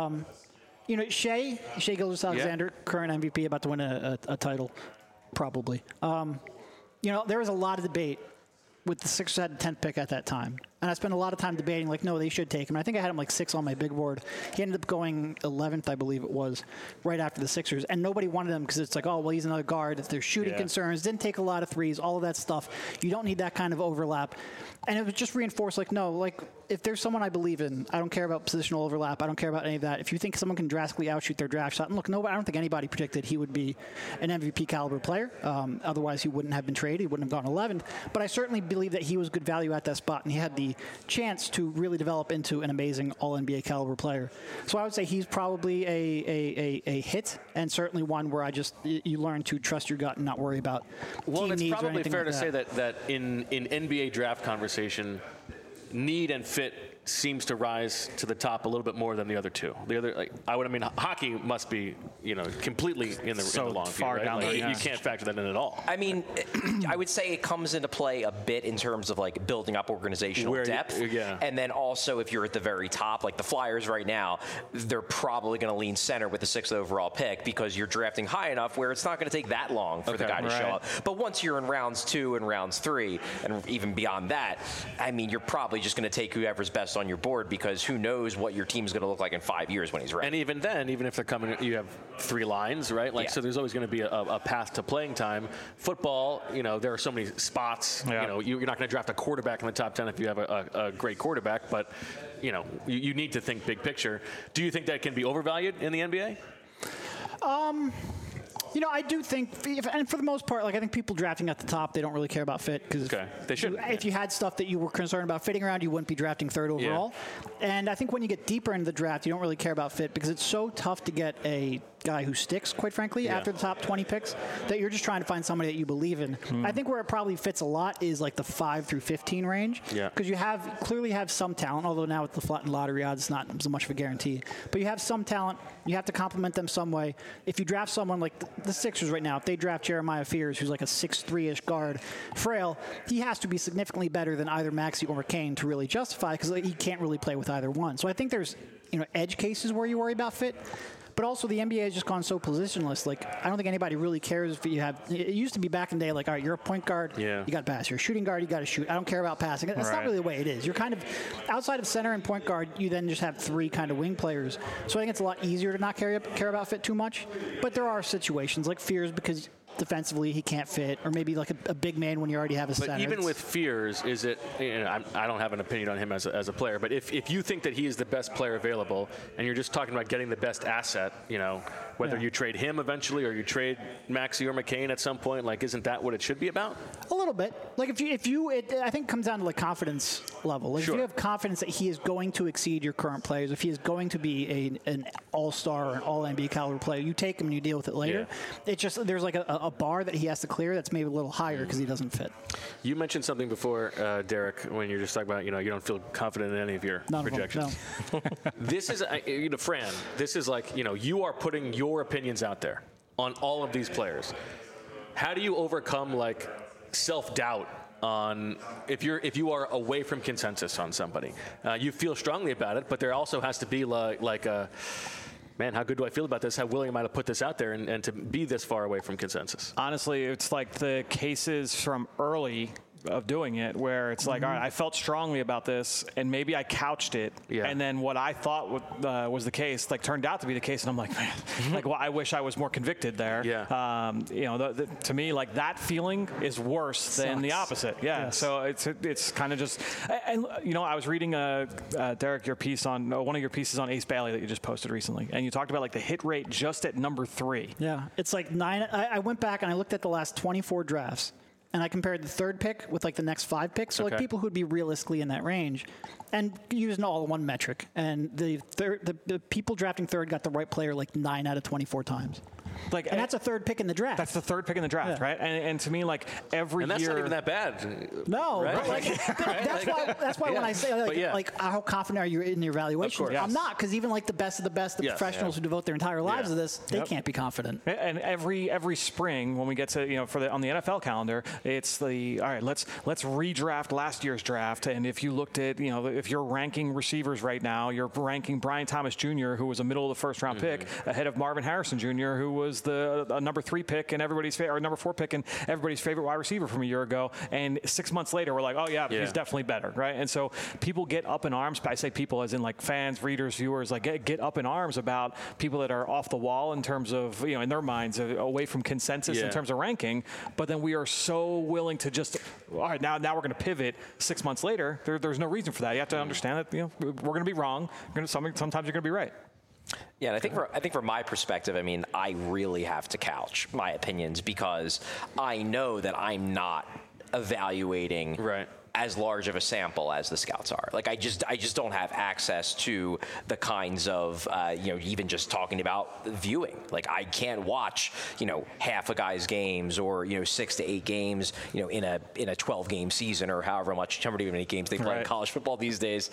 Speaker 3: Shai Gilgeous-Alexander, current MVP, about to win a title, probably. There was a lot of debate with the Sixers had the 10th pick at that time. And I spent a lot of time debating, like, no, they should take him. I think I had him like 6 on my big board. He ended up going 11th, I believe it was, right after the Sixers. And nobody wanted him because it's like, oh, well, he's another guard. If there's shooting concerns, didn't take a lot of threes, all of that stuff. You don't need that kind of overlap. And it was just reinforced, like, no, like, if there's someone I believe in, I don't care about positional overlap. I don't care about any of that. If you think someone can drastically outshoot their draft shot, and look, I don't think anybody predicted he would be an MVP caliber player. Otherwise, he wouldn't have been traded. He wouldn't have gone 11th. But I certainly believe that he was good value at that spot, and he had the the chance to really develop into an amazing All-NBA caliber player. So I would say he's probably a hit, and certainly one where you learn to trust your gut and not worry about team
Speaker 1: it's
Speaker 3: needs
Speaker 1: probably
Speaker 3: or anything
Speaker 1: fair
Speaker 3: like
Speaker 1: to say that in NBA draft conversation, need and fit seems to rise to the top a little bit more than the other two. The other, hockey must be, completely in the long
Speaker 2: far
Speaker 1: view, right?
Speaker 2: down there.
Speaker 1: You can't factor that in at all.
Speaker 4: I mean, I would say it comes into play a bit in terms of like building up organizational depth. And then also if you're at the very top, like the Flyers right now, they're probably going to lean center with the 6th overall pick because you're drafting high enough where it's not going to take that long for the guy to show up. But once you're in rounds 2 and rounds 3, and even beyond that, I mean, you're probably just going to take whoever's best on your board because who knows what your team's going to look like in 5 years when he's ready.
Speaker 1: And even then, even if they're coming, you have 3 lines, right? So there's always going to be a path to playing time. Football, there are so many spots. You're not going to draft a quarterback in the top 10 if you have a great quarterback, but you need to think big picture. Do you think that can be overvalued in the NBA?
Speaker 3: I do think, and for the most part, I think people drafting at the top, they don't really care about fit because
Speaker 1: they should.
Speaker 3: If you had stuff that you were concerned about fitting around, you wouldn't be drafting 3rd overall. And I think when you get deeper into the draft, you don't really care about fit because it's so tough to get a guy who sticks, quite frankly, after the top 20 picks, that you're just trying to find somebody that you believe in. I think where it probably fits a lot is like the 5 through 15 range, because you clearly have some talent, although now with the flattened lottery odds, it's not so much of a guarantee. But you have some talent. You have to complement them some way. If you draft someone like the Sixers right now, if they draft Jeremiah Fears, who's like a 6'3"-ish guard, frail, he has to be significantly better than either Maxey or McCain to really justify, because he can't really play with either one. So I think there's edge cases where you worry about fit. But also, the NBA has just gone so positionless. I don't think anybody really cares if you have. It used to be back in the day, all right, you're a point guard, you got to pass. You're a shooting guard, you got to shoot. I don't care about passing. That's not really the way it is. You're kind of outside of center and point guard. You then just have 3 kind of wing players. So I think it's a lot easier to not care about fit too much. But there are situations like Fears because defensively he can't fit, or maybe like a big man when you already have a center.
Speaker 1: But even with Fears, is it? I don't have an opinion on him as a player, but if you think that he is the best player available, and you're just talking about getting the best asset, whether you trade him eventually or you trade Maxey or McCain at some point, isn't that what it should be about?
Speaker 3: A little bit. I think it comes down to confidence level. If you have confidence that he is going to exceed your current players, if he is going to be an all-star or an all-NBA caliber player, you take him and you deal with it later. It's just there's a bar that he has to clear that's maybe a little higher because he doesn't fit.
Speaker 1: You mentioned something before, Derek, when you're just talking about, you don't feel confident in any of your projections.
Speaker 3: No.
Speaker 1: This is, Fran, this is you are putting your opinions out there on all of these players. How do you overcome self-doubt on if you are away from consensus on somebody? You feel strongly about it, but there also has to be man, how good do I feel about this? How willing am I to put this out there and to be this far away from consensus?
Speaker 2: Honestly, it's like the cases from early of doing it where it's all right, I felt strongly about this and maybe I couched it, and then what I thought was the case turned out to be the case, and I'm like, man, well, I wish I was more convicted there. To me, that feeling is worse than the opposite. So it's kind of just, and I was reading Derek, your piece on one of your pieces on Ace Bailey that you just posted recently, and you talked about the hit rate just at number 3.
Speaker 3: It's 9. I went back and I looked at the last 24 drafts. And I compared the 3rd pick with the next 5 picks, so people who would be realistically in that range, and used an all-in-one metric. And the people drafting 3rd got the right player 9 out of 24 times. And that's a 3rd pick in the draft.
Speaker 2: That's the 3rd pick in the draft, right? And to me, every
Speaker 1: year, and that's not even that bad.
Speaker 3: No, right? That's why when I say how confident are you in your evaluation? I'm not, because even the best of the best, the professionals who devote their entire lives to this, they can't be confident.
Speaker 2: And every spring when we get to on the NFL calendar, it's all right. Let's redraft last year's draft. And if you looked at if you're ranking receivers right now, you're ranking Brian Thomas Jr., who was a middle of the 1st round pick, ahead of Marvin Harrison Jr., who was the number 3 pick and everybody's favorite, or number 4 pick and everybody's favorite wide receiver from a year ago. And 6 months later, we're like, he's definitely better, right? And so people get up in arms. I say people as in fans, readers, viewers, get up in arms about people that are off the wall in terms of in their minds away from consensus in terms of ranking. But then we are so willing to just all right, now we're going to pivot 6 months later. There's no reason for that. You have to understand that we're going to be wrong. Sometimes you're going to be right.
Speaker 4: Yeah, and I think from my perspective, I really have to couch my opinions because I know that I'm not evaluating as large of a sample as the scouts are. Like I just don't have access to the kinds of even just talking about viewing. Like I can't watch half a guy's games or 6 to 8 games in a 12-game season or however many games they play in college football these days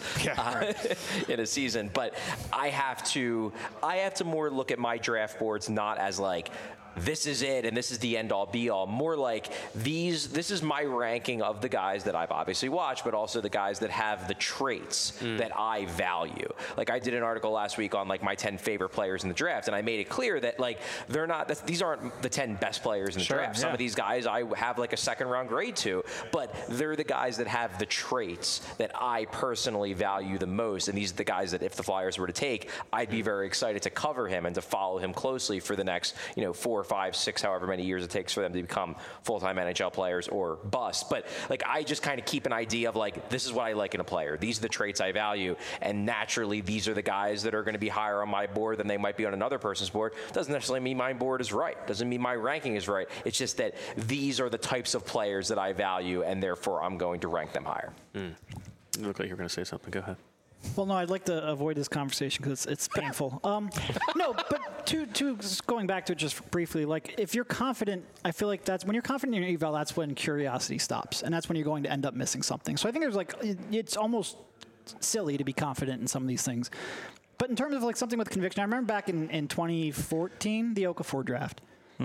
Speaker 4: in a season. But I have to more look at my draft boards not as like, this is it and this is the end all be all. More like this is my ranking of the guys that I've obviously watched, but also the guys that have the traits that I value. Like I did an article last week on like my 10 favorite players in the draft, and I made it clear that like these aren't the 10 best players in the draft. Some of these guys I have like a second round grade to, but they're the guys that have the traits that I personally value the most. And these are the guys that if the Flyers were to take, I'd be very excited to cover him and to follow him closely for the next 4, 5, 6, however many years it takes for them to become full-time NHL players or bust. But like I just kind of keep an idea of like, this is what I like in a player. These are the traits I value, and naturally these are the guys that are going to be higher on my board than they might be on another person's board. Doesn't necessarily mean my board is right. Doesn't mean my ranking is right. It's just that these are the types of players that I value, and therefore I'm going to rank them higher.
Speaker 1: You look like you're going to say something. Go ahead.
Speaker 3: Well, no, I'd like to avoid this conversation because it's painful. No, but to going back to it just briefly, like if you're confident, I feel like that's when you're confident in your eval, that's when curiosity stops, and that's when you're going to end up missing something. So I think there's like it's almost silly to be confident in some of these things. But in terms of like something with conviction, I remember back in 2014, the Okafor draft.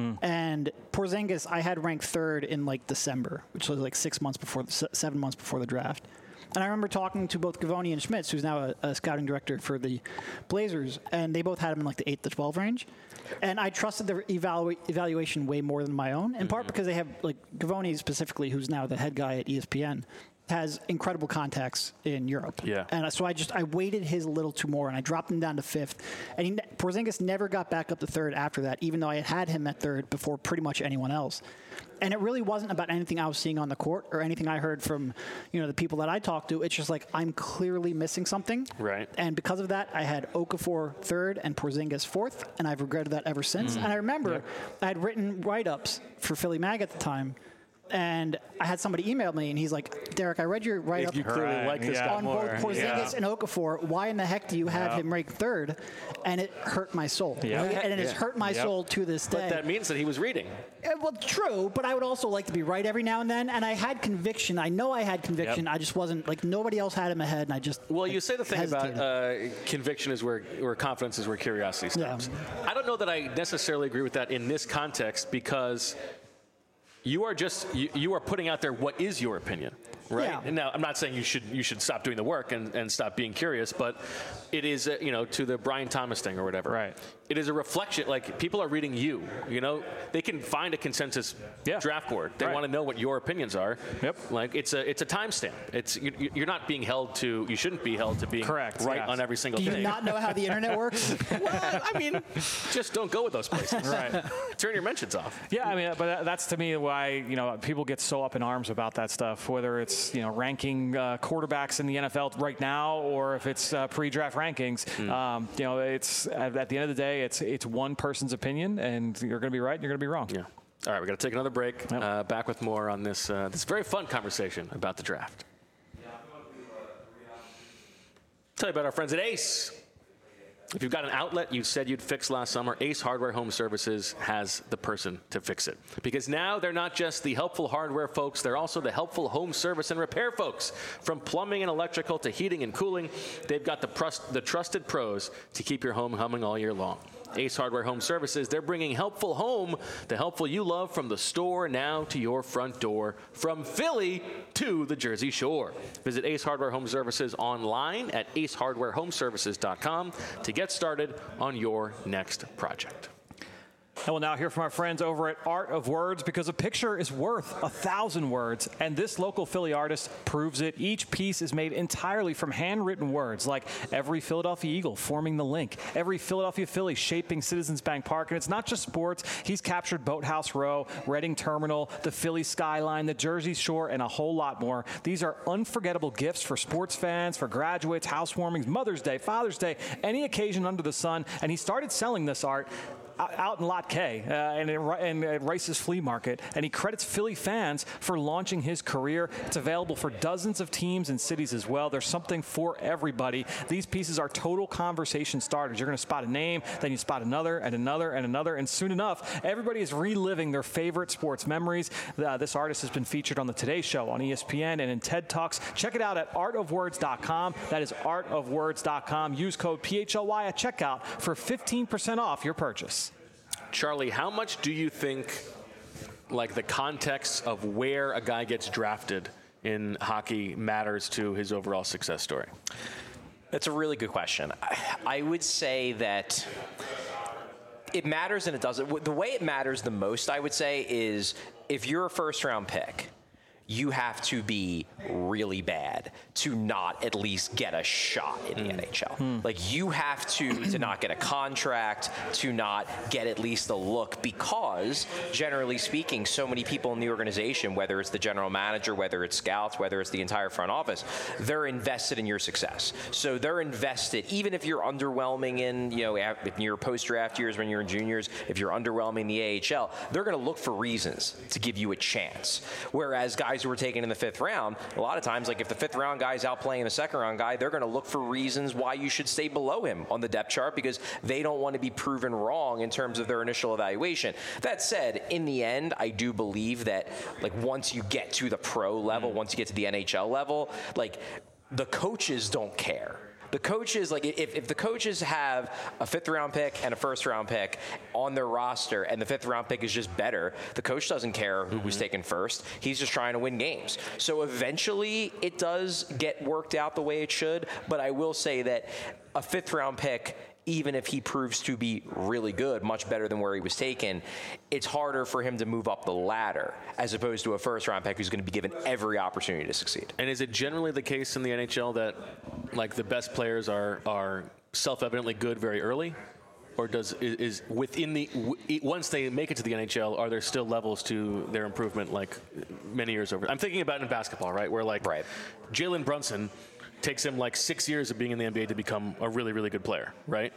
Speaker 3: And Porzingis, I had ranked 3rd in like December, which was like 7 months before the draft. And I remember talking to both Gavoni and Schmitz, who's now a scouting director for the Blazers, and they both had him in like the 8 to 12 range. And I trusted their evaluation way more than my own, in part because they have, like, Gavoni specifically, who's now the head guy at ESPN, has incredible contacts in Europe. Yeah. And so I weighted his a little too more, and I dropped him down to 5th. And Porzingis never got back up to 3rd after that, even though I had him at 3rd before pretty much anyone else. And it really wasn't about anything I was seeing on the court or anything I heard from, the people that I talked to. It's just like I'm clearly missing something. Right. And because of that, I had Okafor 3rd and Porzingis 4th, and I've regretted that ever since. And I remember I had written write-ups for Philly Mag at the time. And I had somebody email me, and he's like, Derek, I read your write-up
Speaker 1: you clearly like this guy
Speaker 3: on
Speaker 1: more.
Speaker 3: both Porzingis and Okafor. Why in the heck do you have him ranked 3rd? And it hurt my soul. And it has hurt my soul to this day.
Speaker 1: But that means that he was reading.
Speaker 3: Well, true, but I would also like to be right every now and then. And I had conviction. I know I had conviction. I just wasn't, like, nobody else had him ahead, and I just
Speaker 1: Well, you say the thing about conviction is where confidence is where curiosity stops. Yeah. I don't know that I necessarily agree with that in this context, because you are putting out there what is your opinion, right?
Speaker 3: Yeah.
Speaker 1: And now, I'm not saying you should stop doing the work and stop being curious, but it is, to the Brian Thomas thing or whatever. Right. It is a reflection. Like, people are reading you. They can find a consensus draft board. They want to know what your opinions are. Yep. Like, it's a timestamp. You're not being held to. You shouldn't be held to being correct on every single thing.
Speaker 3: Do you not know how the internet works?
Speaker 1: Well, I mean, just don't go with those places. Right. Turn your mentions off.
Speaker 2: Yeah, I mean, but that's to me why people get so up in arms about that stuff. Whether it's ranking quarterbacks in the NFL right now, or if it's pre-draft rankings. It's at the end of the day, it's one person's opinion, and you're going to be right, and you're going to be wrong.
Speaker 1: Yeah. All right, we're going to take another break. Yep. Back with more on this very fun conversation about the draft. Tell you about our friends at Ace. If you've got an outlet you said you'd fix last summer, Ace Hardware Home Services has the person to fix it. Because now they're not just the helpful hardware folks, they're also the helpful home service and repair folks. From plumbing and electrical to heating and cooling, they've got the trusted pros to keep your home humming all year long. Ace Hardware Home Services, they're bringing helpful home, the helpful you love, from the store now to your front door, from Philly to the Jersey Shore. Visit Ace Hardware Home Services online at acehardwarehomeservices.com to get started on your next project.
Speaker 2: And we'll now hear from our friends over at Art of Words, because a picture is worth 1,000 words, and this local Philly artist proves it. Each piece is made entirely from handwritten words, like every Philadelphia Eagle forming the link, every Philadelphia Philly shaping Citizens Bank Park. And it's not just sports. He's captured Boathouse Row, Reading Terminal, the Philly skyline, the Jersey Shore, and a whole lot more. These are unforgettable gifts for sports fans, for graduates, housewarmings, Mother's Day, Father's Day, any occasion under the sun. And he started selling this art out in Lot K and at Rice's Flea Market, and he credits Philly fans for launching his career. It's available for dozens of teams and cities as well. There's something for everybody. These pieces are total conversation starters. You're going to spot a name, then you spot another and another and another, and soon enough, everybody is reliving their favorite sports memories. This artist has been featured on the Today Show, on ESPN, and in TED Talks. Check it out at artofwords.com. That is artofwords.com. Use code PHLY at checkout for 15% off your purchase.
Speaker 1: Charlie, how much do you think, like, the context of where a guy gets drafted in hockey matters to his overall success story?
Speaker 4: That's a really good question. I would say that it matters and it doesn't. The way it matters the most, I would say, is if you're a first-round pick, you have to be really bad to not at least get a shot in the NHL. Like, you have to not get a contract, to not get at least a look, because generally speaking, so many people in the organization, whether it's the general manager, whether it's scouts, whether it's the entire front office, they're invested in your success. So they're invested, even if you're underwhelming in, in your post-draft years when you're in juniors, if you're underwhelming in the AHL, they're going to look for reasons to give you a chance. Whereas guys who were taken in the 5th round, a lot of times, like if the 5th round guy's outplaying the 2nd round guy, they're going to look for reasons why you should stay below him on the depth chart, because they don't want to be proven wrong in terms of their initial evaluation. That said, in the end, I do believe that, like, once you get to the pro level, once you get to the NHL level, like, the coaches don't care. The coaches, like, if the coaches have a 5th round pick and a 1st round pick on their roster, and the 5th round pick is just better, the coach doesn't care who was taken first. He's just trying to win games. So eventually it does get worked out the way it should, but I will say that a 5th round pick, even if he proves to be really good, much better than where he was taken, it's harder for him to move up the ladder as opposed to a 1st round pick who's going to be given every opportunity to succeed.
Speaker 1: And is it generally the case in the NHL that, like, the best players are self-evidently good very early? Or is within once they make it to the NHL, are there still levels to their improvement, like, many years over? I'm thinking about in basketball, right? Where, like, Jalen Brunson takes him like 6 years of being in the NBA to become a really, really good player, right?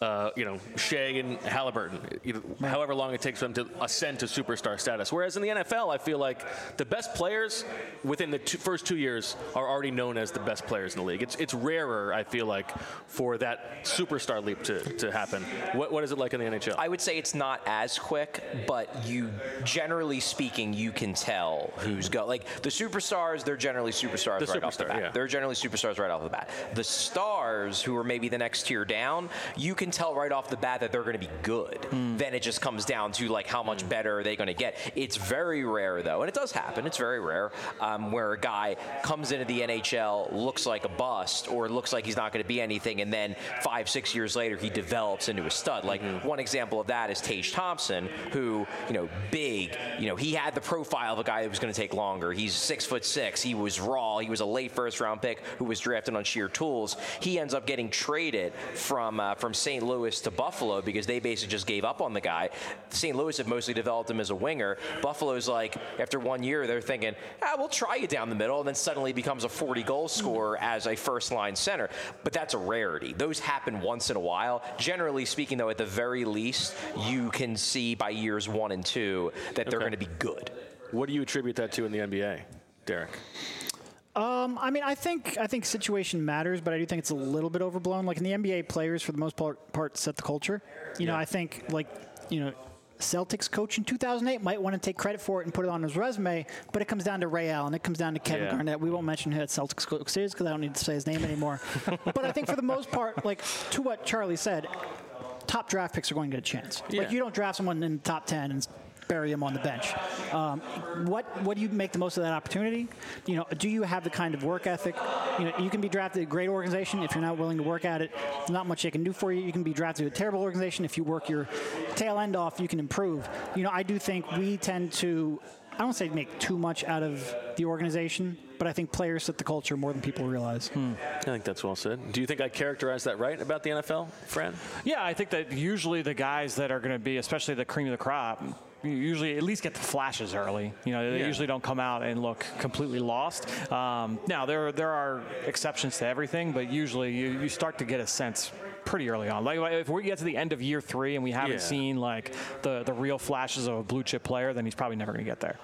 Speaker 1: Shea and Halliburton, however long it takes them to ascend to superstar status. Whereas in the NFL, I feel like the best players within the first 2 years are already known as the best players in the league. It's rarer, I feel like, for that superstar leap to happen. What is it like in the NHL?
Speaker 4: I would say it's not as quick, but generally speaking, you can tell who's go. Like, the superstars, they're generally superstars right off the bat.
Speaker 1: Yeah.
Speaker 4: They're generally superstars right off the bat. The stars, who are maybe the next tier down, you can tell right off the bat that they're going to be good. Then it just comes down to, like, how much better are they going to get. It's very rare, though, and it does happen, it's very rare, where a guy comes into the NHL, looks like a bust, or looks like he's not going to be anything, and then 5-6 years later he develops into a stud. Like, one example of that is Tage Thompson, who, big, he had the profile of a guy that was going to take longer. He's 6'6", he was raw, he was a late 1st round pick who was drafted on sheer tools. He ends up getting traded from St. Louis to Buffalo because they basically just gave up on the guy. St. Louis have mostly developed him as a winger. Buffalo's like, after 1 year, they're thinking, we'll try you down the middle, and then suddenly becomes a 40-goal scorer as a first-line center. But that's a rarity. Those happen once in a while. Generally speaking, though, at the very least, you can see by years 1 and 2 that they're going to be good.
Speaker 1: What do you attribute that to in the NBA, Derek?
Speaker 3: I think situation matters, but I do think it's a little bit overblown. Like, in the NBA, players for the most part set the culture. I think, Celtics coach in 2008 might want to take credit for it and put it on his resume, but it comes down to Ray Allen. It comes down to Kevin Garnett. We won't mention who at Celtics coach is because I don't need to say his name anymore. But I think for the most part, like, to what Charlie said, top draft picks are going to get a chance.
Speaker 1: Yeah.
Speaker 3: Like, you don't draft someone in the top 10 and bury him on the bench. What do you make the most of that opportunity? Do you have the kind of work ethic? You can be drafted to a great organization. If you're not willing to work at it, there's not much they can do for you. You can be drafted to a terrible organization. If you work your tail end off, you can improve. I do think we tend to, I don't say make too much out of the organization, but I think players set the culture more than people realize.
Speaker 1: I think that's well said. Do you think I characterized that right about the NFL, Fran?
Speaker 2: Yeah, I think that usually the guys that are going to be, especially the cream of the crop, you usually at least get the flashes early. They usually don't come out and look completely lost. Now, there are exceptions to everything, but usually you start to get a sense pretty early on. Like if we get to the end of year 3 and we haven't seen like the real flashes of a blue chip player, then he's probably never going to get there.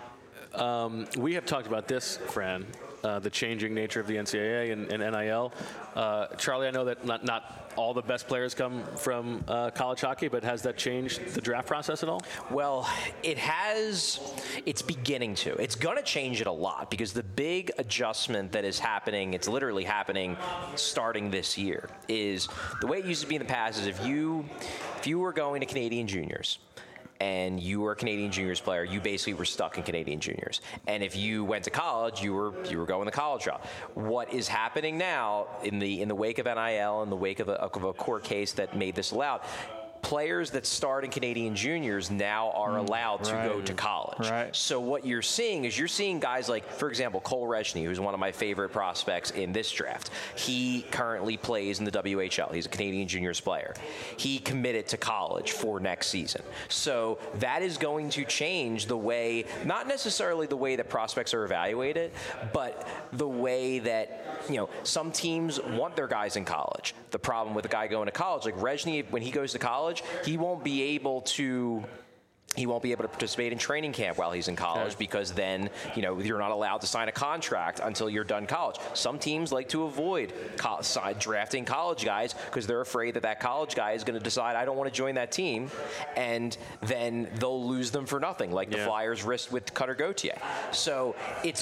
Speaker 1: We have talked about this, Fran, the changing nature of the NCAA and NIL. Charlie, I know that not all the best players come from college hockey, but has that changed the draft process at all?
Speaker 4: Well, it has. It's beginning to. It's going to change it a lot because the big adjustment that is happening, it's literally happening starting this year, is the way it used to be in the past is if you were going to Canadian juniors, and you were a Canadian juniors player, you basically were stuck in Canadian juniors. And if you went to college, you were going the college route. What is happening now in the wake of NIL, in the wake of a court case that made this allowed, players that start in Canadian juniors now are allowed to go to college.
Speaker 2: Right.
Speaker 4: So what you're seeing is you're seeing guys like, for example, Cole Rechny, who's one of my favorite prospects in this draft. He currently plays in the WHL. He's a Canadian juniors player. He committed to college for next season. So that is going to change the way, not necessarily the way that prospects are evaluated, but the way that, some teams want their guys in college. The problem with a guy going to college, like Rechny, when he goes to college, he won't be able to participate in training camp while he's in college because then, you're not allowed to sign a contract until you're done college. Some teams like to avoid drafting college guys because they're afraid that college guy is going to decide, I don't want to join that team, and then they'll lose them for nothing, like the Flyers risked with Cutter Gauthier. So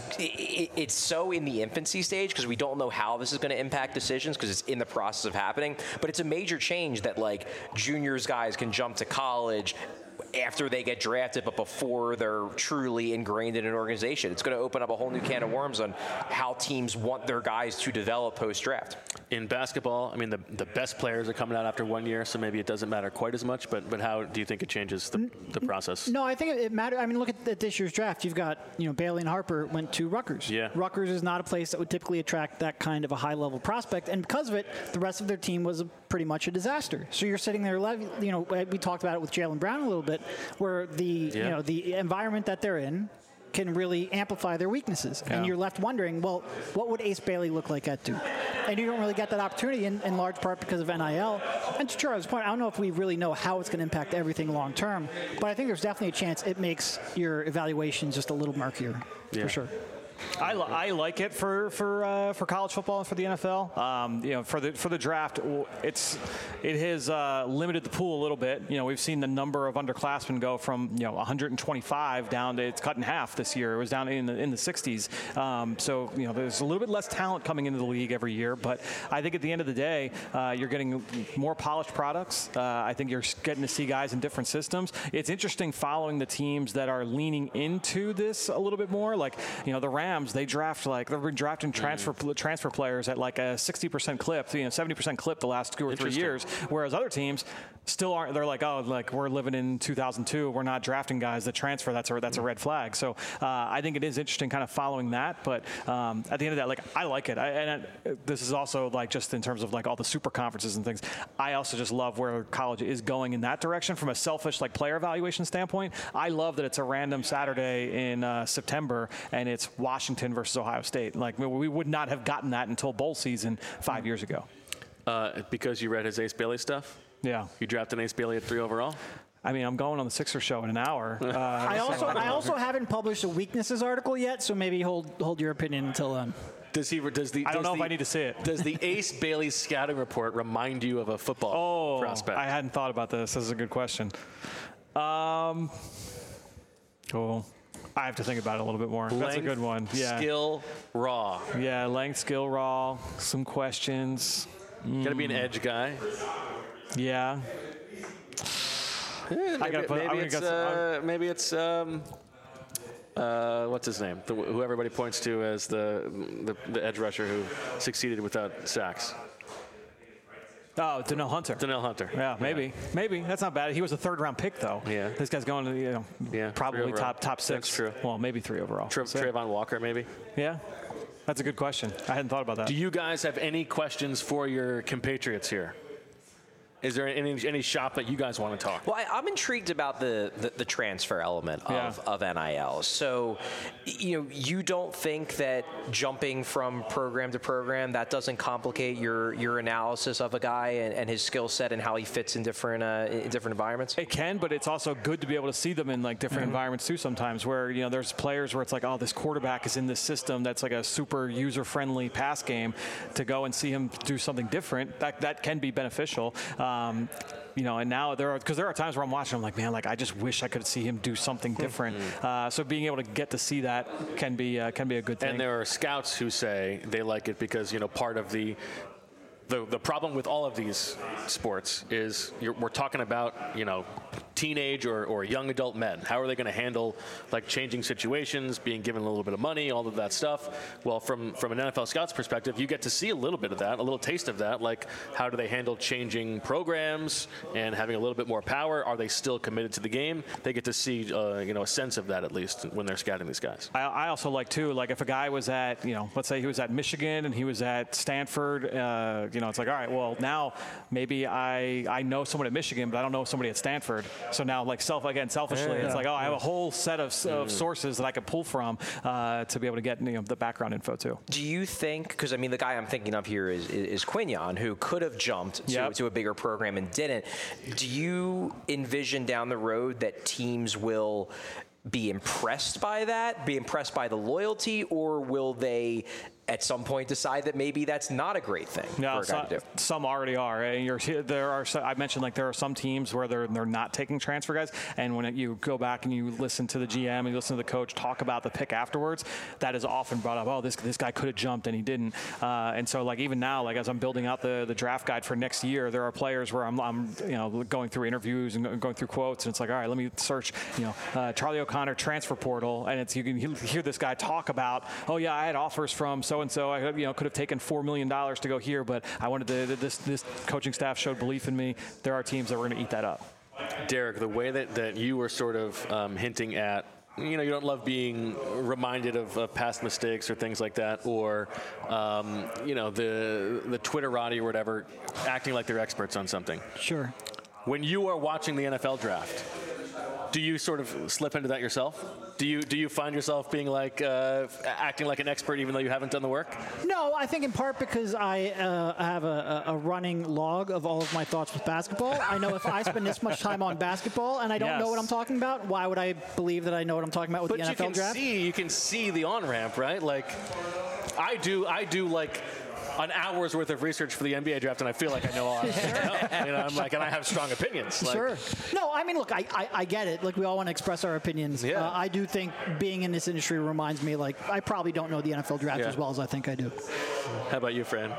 Speaker 4: it's so in the infancy stage because we don't know how this is going to impact decisions because it's in the process of happening, but it's a major change that juniors guys can jump to college after they get drafted, but before they're truly ingrained in an organization. It's going to open up a whole new can of worms on how teams want their guys to develop post-draft.
Speaker 1: In basketball, the best players are coming out after 1 year, so maybe it doesn't matter quite as much, but how do you think it changes the process?
Speaker 3: No, I think it matters. Look at this year's draft. You've got, Bailey and Harper went to Rutgers.
Speaker 1: Yeah.
Speaker 3: Rutgers is not a place that would typically attract that kind of a high-level prospect, and because of it, the rest of their team was pretty much a disaster. So you're sitting there, we talked about it with Jaylen Brown a little bit, where the environment that they're in can really amplify their weaknesses. And you're left wondering, well, what would Ace Bailey look like at Duke? And you don't really get that opportunity in large part because of NIL. And to Charles' point, I don't know if we really know how it's going to impact everything long term, but I think there's definitely a chance it makes your evaluation just a little murkier, for sure.
Speaker 2: I like it for college football and for the NFL. For the draft, it has limited the pool a little bit. We've seen the number of underclassmen go from 125 down to, it's cut in half this year. It was down in the 60s. So there's a little bit less talent coming into the league every year. But I think at the end of the day, you're getting more polished products. I think you're getting to see guys in different systems. It's interesting following the teams that are leaning into this a little bit more. Like the Rams, they've been drafting transfer players at like a 60% clip, 70% clip the last 2 or 3 years, whereas other teams still aren't. They're like, we're living in 2002, we're not drafting guys that transfer. That's a red flag. So I think it is interesting kind of following that, but at the end of that, I like it. This is also just in terms of all the super conferences and things. I also just love where college is going in that direction from a selfish player evaluation standpoint. I love that it's a random Saturday in September and it's Washington versus Ohio State. We would not have gotten that until bowl season 5 years ago.
Speaker 1: Because you read his Ace Bailey stuff?
Speaker 2: Yeah.
Speaker 1: You drafted Ace Bailey at 3 overall?
Speaker 2: I'm going on the Sixers show in an hour.
Speaker 3: I also haven't published a weaknesses article yet, so maybe hold your opinion until then.
Speaker 2: I don't know if I need to see it.
Speaker 1: Does the Ace Bailey scouting report remind you of a football prospect?
Speaker 2: I hadn't thought about this. This is a good question. I have to think about it a little bit more. That's a good one. Yeah.
Speaker 1: Skill, raw.
Speaker 2: Yeah, length, skill, raw. Some questions.
Speaker 1: Got to be an edge guy.
Speaker 2: Yeah.
Speaker 1: Maybe it's what's his name? Who everybody points to as the edge rusher who succeeded without sacks.
Speaker 2: Oh, Donnell Hunter.
Speaker 1: Donnell Hunter.
Speaker 2: Yeah, maybe. Maybe. That's not bad. He was a third-round pick, though.
Speaker 1: Yeah.
Speaker 2: This guy's going to, probably top 6.
Speaker 1: That's true.
Speaker 2: Well, maybe 3 overall.
Speaker 1: Trayvon Walker, maybe?
Speaker 2: Yeah. That's a good question. I hadn't thought about that.
Speaker 1: Do you guys have any questions for your compatriots here? Is there any shop that you guys want to talk?
Speaker 4: Well, I'm intrigued about the transfer element of NIL. So, you don't think that jumping from program to program, that doesn't complicate your analysis of a guy and his skill set and how he fits in different environments?
Speaker 2: It can, but it's also good to be able to see them in like different environments too sometimes, where there's players where it's like, oh, this quarterback is in this system that's like a super user-friendly pass game. To go and see him do something different, that can be beneficial. And now there are times where I'm watching, I'm like, man, like I just wish I could see him do something different. So being able to get to see that can be a good thing.
Speaker 1: And there are scouts who say they like it because part of the problem with all of these sports is we're talking about teenage or young adult men. How are they going to handle like changing situations, being given a little bit of money, all of that stuff? Well, from an NFL scout's perspective, you get to see a little bit of that, a little taste of that. Like, how do they handle changing programs and having a little bit more power? Are they still committed to the game? They get to see a sense of that at least when they're scouting these guys.
Speaker 2: I also like too, like if a guy was at let's say he was at Michigan and he was at Stanford, it's like, all right, well now maybe I know someone at Michigan, but I don't know somebody at Stanford. So now, like selfishly, it's like, oh, I have a whole set of sources that I could pull from to be able to get the background info too.
Speaker 4: Do you think? Because I mean, the guy I'm thinking of here is Quinyon, who could have jumped to a bigger program and didn't. Do you envision down the road that teams will be impressed by that, be impressed by the loyalty, or will they at some point decide that maybe that's not a great thing for a guy to do?
Speaker 2: Some already are. I mentioned like there are some teams where they're not taking transfer guys, and when you go back and you listen to the GM and you listen to the coach talk about the pick afterwards, that is often brought up. Oh, this guy could have jumped and he didn't. And so like even now, like as I'm building out the draft guide for next year, there are players where I'm going through interviews and going through quotes, and it's like, all right, let me search Charlie O'Connor transfer portal, and you can hear this guy talk about, oh yeah, I had offers from so and so. I could have taken $4 million to go here, but I wanted this coaching staff showed belief in me. There are teams that were going to eat that up.
Speaker 1: Derek, the way that you were sort of hinting at, you don't love being reminded of past mistakes or things like that, or the Twitterati or whatever, acting like they're experts on something.
Speaker 3: Sure.
Speaker 1: When you are watching the NFL draft, do you sort of slip into that yourself? Do you find yourself being like acting like an expert even though you haven't done the work?
Speaker 3: No, I think in part because I have a running log of all of my thoughts with basketball. I know if I spend this much time on basketball and I don't know what I'm talking about, why would I believe that I know what I'm talking about with the NFL draft?
Speaker 1: You can see the on-ramp, right? Like, I do like an hour's worth of research for the NBA draft, and I feel like I know all I know. I'm like, and I have strong opinions. Like,
Speaker 3: sure. No, I mean, look, I get it. Like, we all want to express our opinions.
Speaker 1: Yeah.
Speaker 3: I do think being in this industry reminds me, like, I probably don't know the NFL draft as well as I think I do.
Speaker 1: How about you, Fran?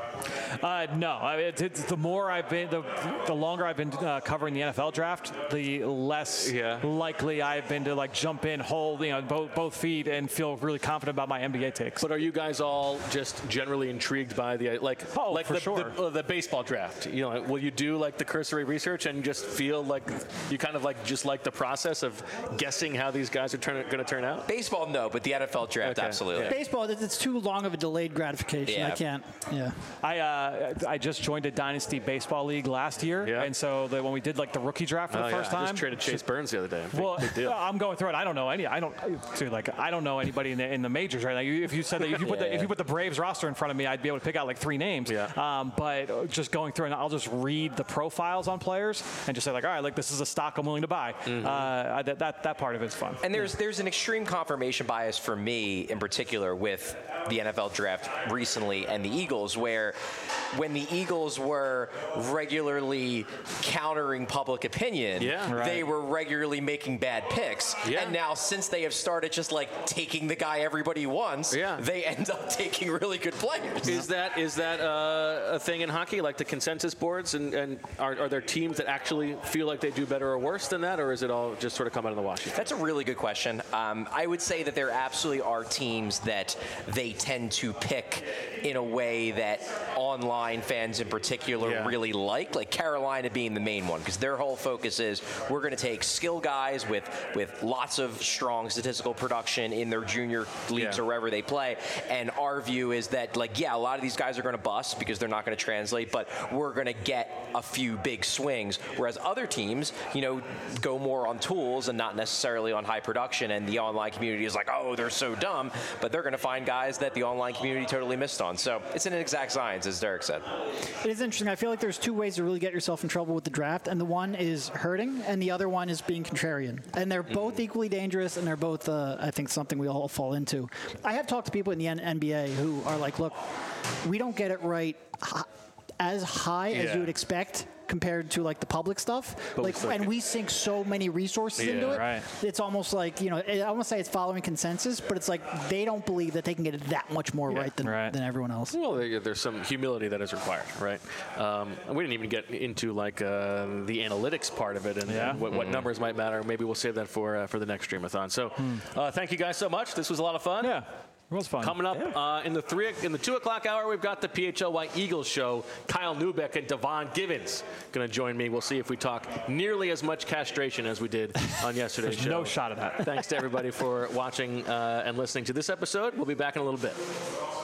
Speaker 2: No. The more I've been, the longer I've been covering the NFL draft, the less likely I've been to like jump in, hold both feet, and feel really confident about my NBA takes.
Speaker 1: But are you guys all just generally intrigued by the the baseball draft? Will you do like the cursory research and just feel like you kind of like just like the process of guessing how these guys are going to turn out?
Speaker 4: Baseball, no, but the NFL draft, absolutely.
Speaker 1: Yeah.
Speaker 3: Baseball, it's too long of a delayed gratification. I can't. Yeah.
Speaker 2: I just joined a Dynasty Baseball League last year, and so when we did like the rookie draft for the first time,
Speaker 1: I just traded Chase Burns the other day. Big deal.
Speaker 2: I'm going through it. I don't know anybody in the majors right now. If you said that if you put the Braves roster in front of me, I'd be able to pick out like 3 names.
Speaker 1: Yeah.
Speaker 2: But just going through and I'll just read the profiles on players and just say like, all right, like this is a stock I'm willing to buy. That part of it's fun.
Speaker 4: And there's an extreme confirmation bias for me in particular with the NFL draft recently and the Eagles, where when the Eagles were regularly countering public opinion, they were regularly making bad picks. Yeah. And now since they have started just like taking the guy everybody wants, they end up taking really good players.
Speaker 1: Is that a thing in hockey, like the consensus boards, and are there teams that actually feel like they do better or worse than that, or is it all just sort of come out of the wash?
Speaker 4: That's a really good question. I would say that there absolutely are teams that they tend to pick in a way that online fans in particular really like Carolina being the main one, because their whole focus is we're going to take skill guys with lots of strong statistical production in their junior leagues or wherever they play, and our view is that, like, a lot of these guys are going to bust because they're not going to translate, but we're going to get a few big swings, whereas other teams, go more on tools and not necessarily on high production, and the online community is like, oh, they're so dumb, but they're going to find guys that the online community totally missed on. So it's an exact science, as Derek said.
Speaker 3: It is interesting. I feel like there's two ways to really get yourself in trouble with the draft, and the one is hurting, and the other one is being contrarian. And they're both equally dangerous, and they're both, I think, something we all fall into. I have talked to people in the NBA who are like, look, we don't get it right as high as you would expect compared to like the public stuff, and we sink so many resources into it. Right. It's almost like, I almost say it's following consensus, but it's like they don't believe that they can get it that much more right than everyone else.
Speaker 1: Well, there's some humility that is required, right? And we didn't even get into like the analytics part of it and what numbers might matter. Maybe we'll save that for the next Streamathon. So thank you guys so much. This was a lot of fun.
Speaker 2: Yeah. It was fun.
Speaker 1: Coming up in the 2 o'clock hour, we've got the PHLY Eagles show. Kyle Neubeck and Devon Givens going to join me. We'll see if we talk nearly as much castration as we did on yesterday's show.
Speaker 2: No shot of that.
Speaker 1: Thanks to everybody for watching and listening to this episode. We'll be back in a little bit.